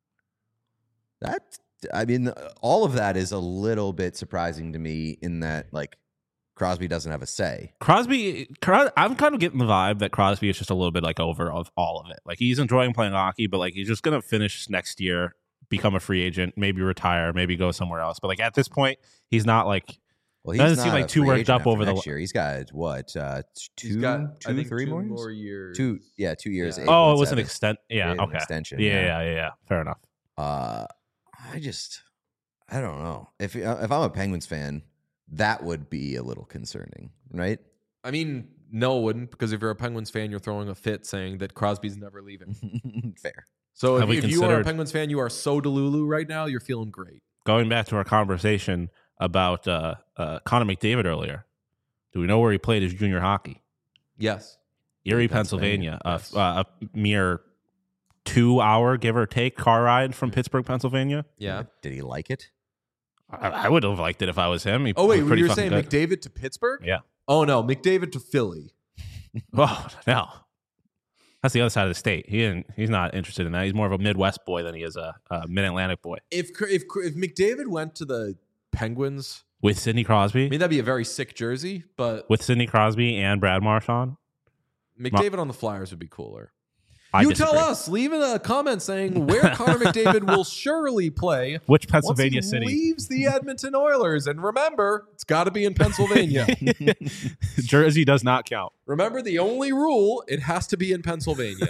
All of that is a little bit surprising to me in that, like, Crosby doesn't have a say. I'm kind of getting the vibe that Crosby is just a little bit like over of all of it. Like, he's enjoying playing hockey, but like he's just going to finish next year, become a free agent, maybe retire, maybe go somewhere else. But like at this point, he's not like, well, doesn't seem like too worked up over the next year. He's got what, He's got, I think, 3 more years. 2 years. Yeah. Oh, it was an extent. Yeah, an okay. extension. Yeah. Fair enough. I don't know. If I'm a Penguins fan, that would be a little concerning, right? I mean, no, it wouldn't, because if you're a Penguins fan, you're throwing a fit saying that Crosby's never leaving. Fair. So if you are a Penguins fan, you are so delulu right now, you're feeling great. Going back to our conversation about Connor McDavid earlier, do we know where he played his junior hockey? Yes. Erie, Pennsylvania. Yes. A mere 2-hour, give or take, car ride from Pittsburgh, Pennsylvania. Yeah. Did he like it? I would have liked it if I was him. Oh, wait, you were saying good. McDavid to Pittsburgh? Yeah. Oh, no, McDavid to Philly. Oh, no. That's the other side of the state. He's not interested in that. He's more of a Midwest boy than he is a Mid-Atlantic boy. If McDavid went to the Penguins with Sidney Crosby, I mean, that'd be a very sick jersey, but with Sidney Crosby and Brad Marchand, McDavid on the Flyers would be cooler. Disagree. Tell us. Leave in a comment saying where Connor McDavid will surely play. Which Pennsylvania once he city leaves the Edmonton Oilers? And remember, it's got to be in Pennsylvania. Jersey does not count. Remember, the only rule, it has to be in Pennsylvania.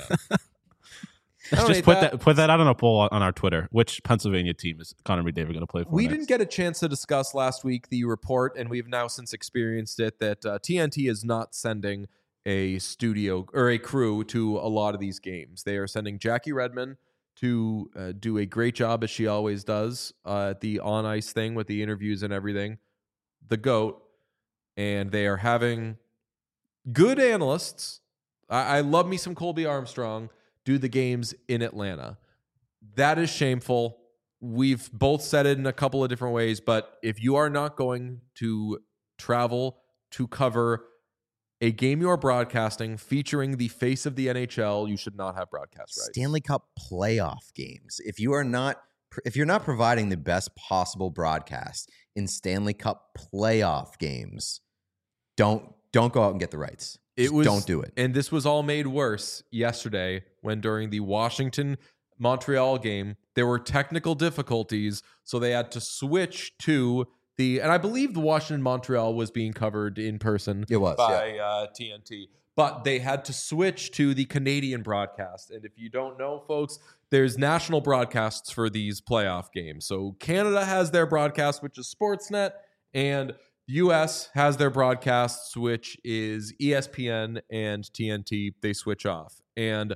Just put that out on a poll on our Twitter. Which Pennsylvania team is Connor McDavid going to play for? We didn't get a chance to discuss last week the report, and we've now since experienced it, that TNT is not sending a studio or a crew to a lot of these games. They are sending Jackie Redmond to do a great job, as she always does, at the on-ice thing with the interviews and everything, the GOAT, and they are having good analysts. I love me some Colby Armstrong do the games in Atlanta. That is shameful. We've both said it in a couple of different ways, but if you are not going to travel to cover a game you are broadcasting featuring the face of the NHL, you should not have broadcast rights. Stanley Cup playoff games. If you're not providing the best possible broadcast in Stanley Cup playoff games, don't go out and get the rights. Don't do it. And this was all made worse yesterday when during the Washington-Montreal game, there were technical difficulties, so they had to switch to and I believe the Washington-Montreal was being covered in person. It was, by TNT. But they had to switch to the Canadian broadcast. And if you don't know, folks, there's national broadcasts for these playoff games. So Canada has their broadcast, which is Sportsnet, and US has their broadcasts, which is ESPN and TNT. They switch off. And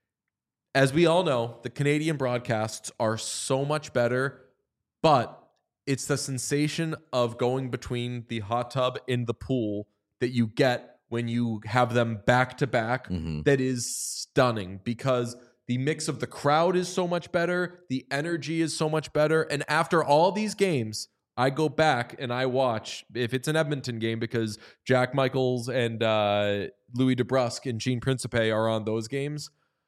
as we all know, the Canadian broadcasts are so much better, but it's the sensation of going between the hot tub and the pool that you get when you have them back to back that is stunning, because the mix of the crowd is so much better. The energy is so much better. And after all these games, I go back and I watch, if it's an Edmonton game, because Jack Michaels and Louis DeBrusque and Gene Principe are on those games,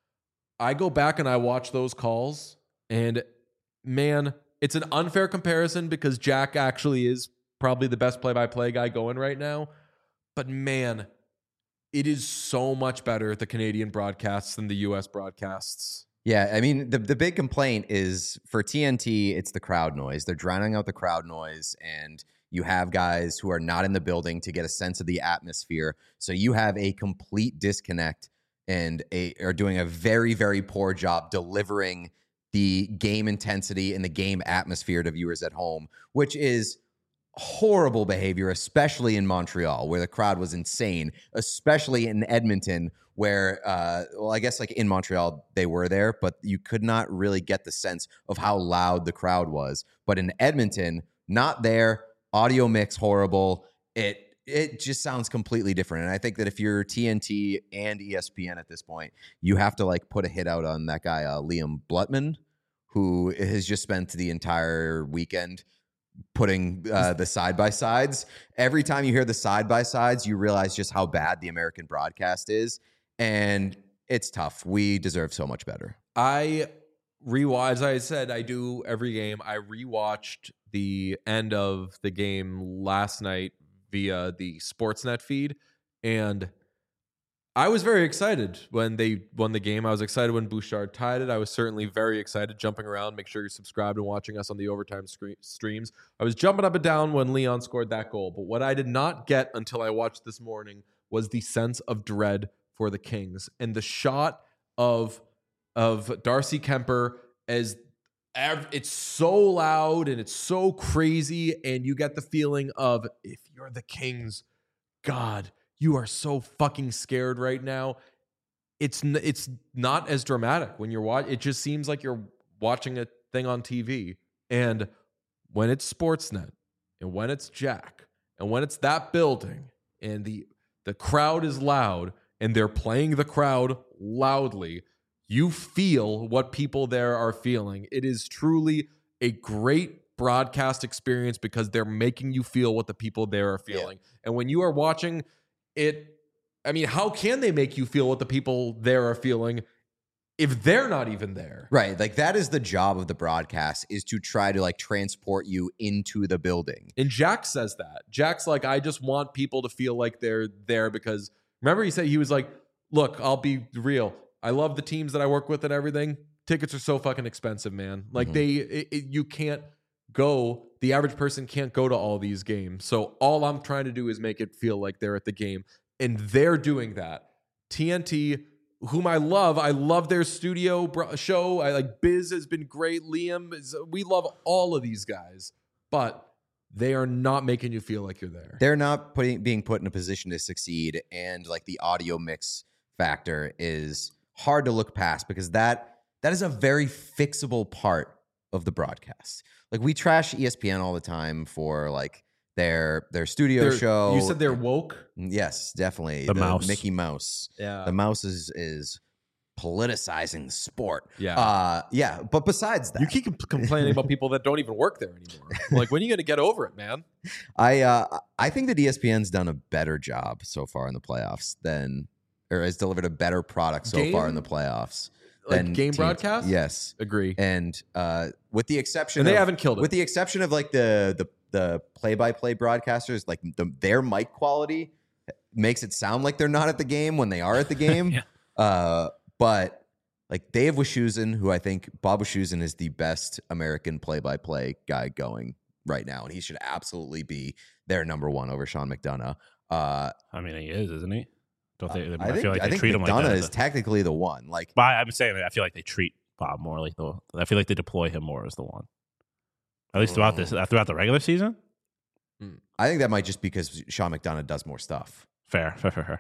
I go back and I watch those calls, and man, it's an unfair comparison because Jack actually is probably the best play-by-play guy going right now. But man, it is so much better, the Canadian broadcasts, than the U.S. broadcasts. Yeah, I mean, the big complaint is for TNT, it's the crowd noise. They're drowning out the crowd noise, and you have guys who are not in the building to get a sense of the atmosphere. So you have a complete disconnect and are doing a very, very poor job delivering the game intensity and the game atmosphere to viewers at home, which is horrible behavior, especially in Montreal, where the crowd was insane, especially in Edmonton, where, well, I guess like in Montreal, they were there, but you could not really get the sense of how loud the crowd was. But in Edmonton, not there, audio mix horrible. It just sounds completely different. And I think that if you're TNT and ESPN at this point, you have to like put a hit out on that guy, Liam Blutman, who has just spent the entire weekend putting the side-by-sides. Every time you hear the side-by-sides, you realize just how bad the American broadcast is. And it's tough. We deserve so much better. I rewatch, as I said, I do every game. I rewatched the end of the game last night via the Sportsnet feed, and I was very excited when they won the game. I was excited when Bouchard tied it. I was certainly very excited, jumping around. Make sure you're subscribed and watching us on the Overtime streams. I was jumping up and down when Leon scored that goal. But what I did not get until I watched this morning was the sense of dread for the Kings. And the shot of Darcy Kemper as it's so loud and it's so crazy. And you get the feeling of, if you're the Kings, God, you are so fucking scared right now. It's not as dramatic when you're watching. It just seems like you're watching a thing on TV. And when it's Sportsnet, and when it's Jack, and when it's that building, and the crowd is loud, and they're playing the crowd loudly, you feel what people there are feeling. It is truly a great broadcast experience because they're making you feel what the people there are feeling. Yeah. And when you are watching it, I mean, how can they make you feel what the people there are feeling if they're not even there? Right. Like, that is the job of the broadcast, is to try to like transport you into the building. And Jack says that. Jack's like, I just want people to feel like they're there because remember he was like, look, I'll be real. I love the teams that I work with and everything. Tickets are so fucking expensive, man. Like you can't go, the average person can't go to all these games. So all I'm trying to do is make it feel like they're at the game. And they're doing that. TNT, whom I love their studio show. I like Biz has been great. Liam, we love all of these guys, but they are not making you feel like you're there. They're not being put in a position to succeed. And like the audio mix factor is hard to look past because that is a very fixable part of the broadcast. Like, we trash ESPN all the time for like their studio show. You said they're woke? Yes, definitely. The mouse. Mickey Mouse. Yeah. The mouse is politicizing sport. Yeah. Yeah. But besides that, you keep complaining about people that don't even work there anymore. Like, when are you going to get over it, man? I think that ESPN's done a better job so far in the playoffs or has delivered a better product so far in the playoffs. Like game broadcast? Yes. Agree. And with the exception and they haven't killed it. With the exception of like the play-by-play broadcasters, like their mic quality makes it sound like they're not at the game when they are at the game. Yeah. But like Dave Wischusen, who I think Bob Wischusen is the best American play-by-play guy going right now, and he should absolutely be their number one over Sean McDonough. I mean, he is, isn't he? Don't they? I feel like they think treat him like McDonough that. is technically the one. Like, but I'm saying I feel like they treat Bob more like I feel like they deploy him more as the one. At least throughout the regular season. I think that might just because Sean McDonough does more stuff. Fair.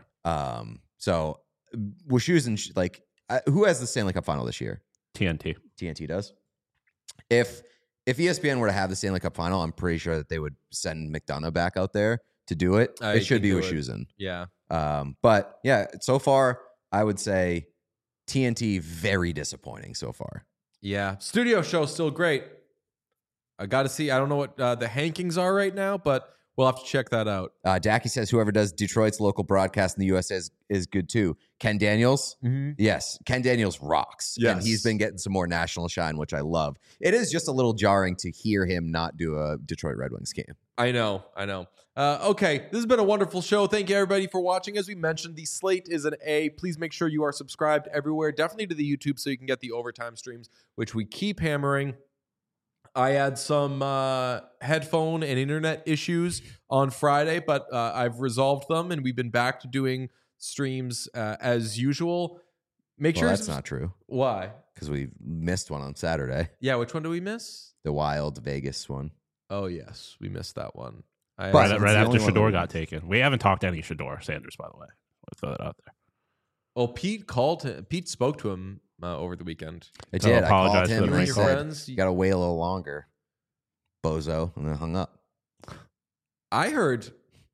So Wischusen, like, who has the Stanley Cup final this year? TNT. TNT does. If ESPN were to have the Stanley Cup final, I'm pretty sure that they would send McDonough back out there to do it. It should be Wischusen. Yeah. But yeah, so far I would say TNT very disappointing so far. Yeah. Studio show still great. I got to see. I don't know what the hankings are right now, but We'll have to check that out. Dacky says whoever does Detroit's local broadcast in the U.S. is good too. Ken Daniels? Yes. Ken Daniels rocks. Yes. And he's been getting some more national shine, which I love. It is just a little jarring to hear him not do a Detroit Red Wings game. I know. Okay, this has been a wonderful show. Thank you, everybody, for watching. As we mentioned, the slate is an A. Please make sure you are subscribed everywhere, definitely to the YouTube so you can get the overtime streams, which we keep hammering. I had some headphone and internet issues on Friday, but I've resolved them, and we've been back to doing streams as usual. Make sure that's not true. Why? Because we missed one on Saturday. Yeah, which one do we miss? The Wild Vegas one. Oh, yes, we missed that one. Right after Shedeur got taken. We haven't talked to any Shedeur Sanders, by the way. I'll throw that out there. Well, Pete spoke to him over the weekend. I did. I called apologize him for and I the said, you got to wait a little longer, bozo, and then hung up. I heard...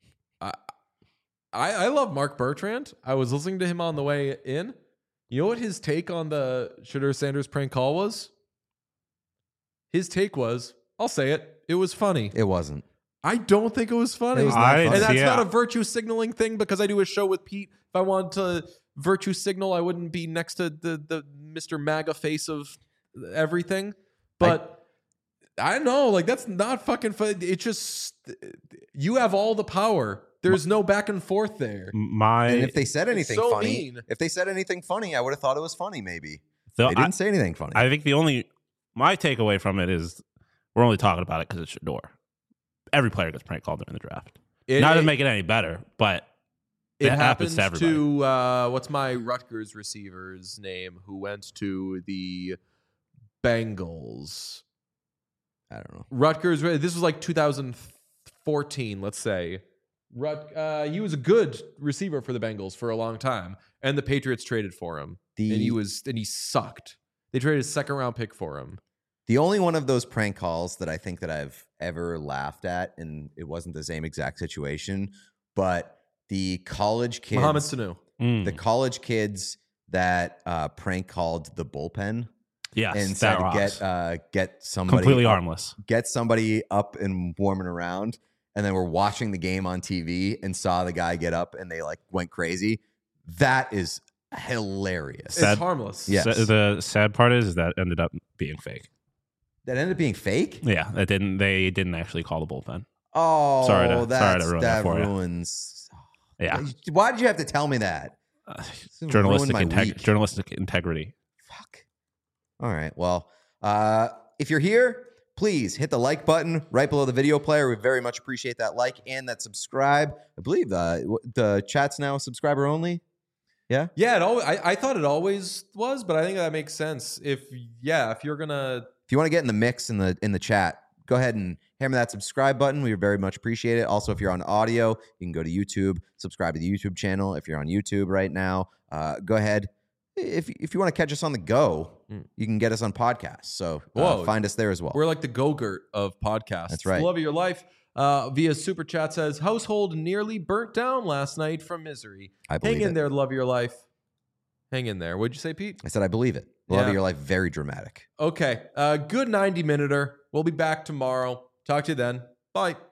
I love Mark Bertrand. I was listening to him on the way in. You know what his take on the Shedeur Sanders prank call was? His take was, I'll say it, it was funny. It wasn't. I don't think it was funny. It was not funny. And that's not a virtue signaling thing because I do a show with Pete. If I wanted to virtue signal, I wouldn't be next to the Mr. MAGA face of everything. But I don't know, like that's not fucking funny. It's just, you have all the power. There's no back and forth there. And if they said anything so funny, I would have thought it was funny. Maybe they didn't say anything funny. I think my takeaway from it is we're only talking about it because it's Shedeur. Every player gets prank called during the draft. Not to make it any better, but it happens to everybody. What's my Rutgers receiver's name who went to the Bengals? I don't know. Rutgers. This was like 2014, let's say. He was a good receiver for the Bengals for a long time, and the Patriots traded for him, and he sucked. They traded a second-round pick for him. The only one of those prank calls that I think that I've ever laughed at, and it wasn't the same exact situation, but the college kids, Mohamed Sanu, the college kids that prank called the bullpen. Yes, and said get somebody completely harmless, get somebody up and warming around. And then we're watching the game on TV and saw the guy get up and they like went crazy. That is hilarious. It's harmless. Yes. The sad part is that ended up being fake. That ended up being fake? Yeah, they didn't actually call the bullpen. Oh, sorry to ruin that for ruins. You. Yeah. Why did you have to tell me that? Journalistic integrity. Fuck. All right. Well, if you're here, please hit the like button right below the video player. We very much appreciate that like and that subscribe. I believe the chat's now subscriber only. Yeah? Yeah, I thought it always was, but I think that makes sense. If you want to get in the mix in the chat, go ahead and hammer that subscribe button. We very much appreciate it. Also, if you're on audio, you can go to YouTube, subscribe to the YouTube channel. If you're on YouTube right now, go ahead. If you want to catch us on the go, you can get us on podcasts. So find us there as well. We're like the Go-Gurt of podcasts. That's right. The love of your life. Via Super Chat says, household nearly burnt down last night from misery. I believe Hang in it. there, love of your life. Hang in there. What'd you say, Pete? I said I believe it. Love of your life, very dramatic. Okay. Good 90-minuter. We'll be back tomorrow. Talk to you then. Bye.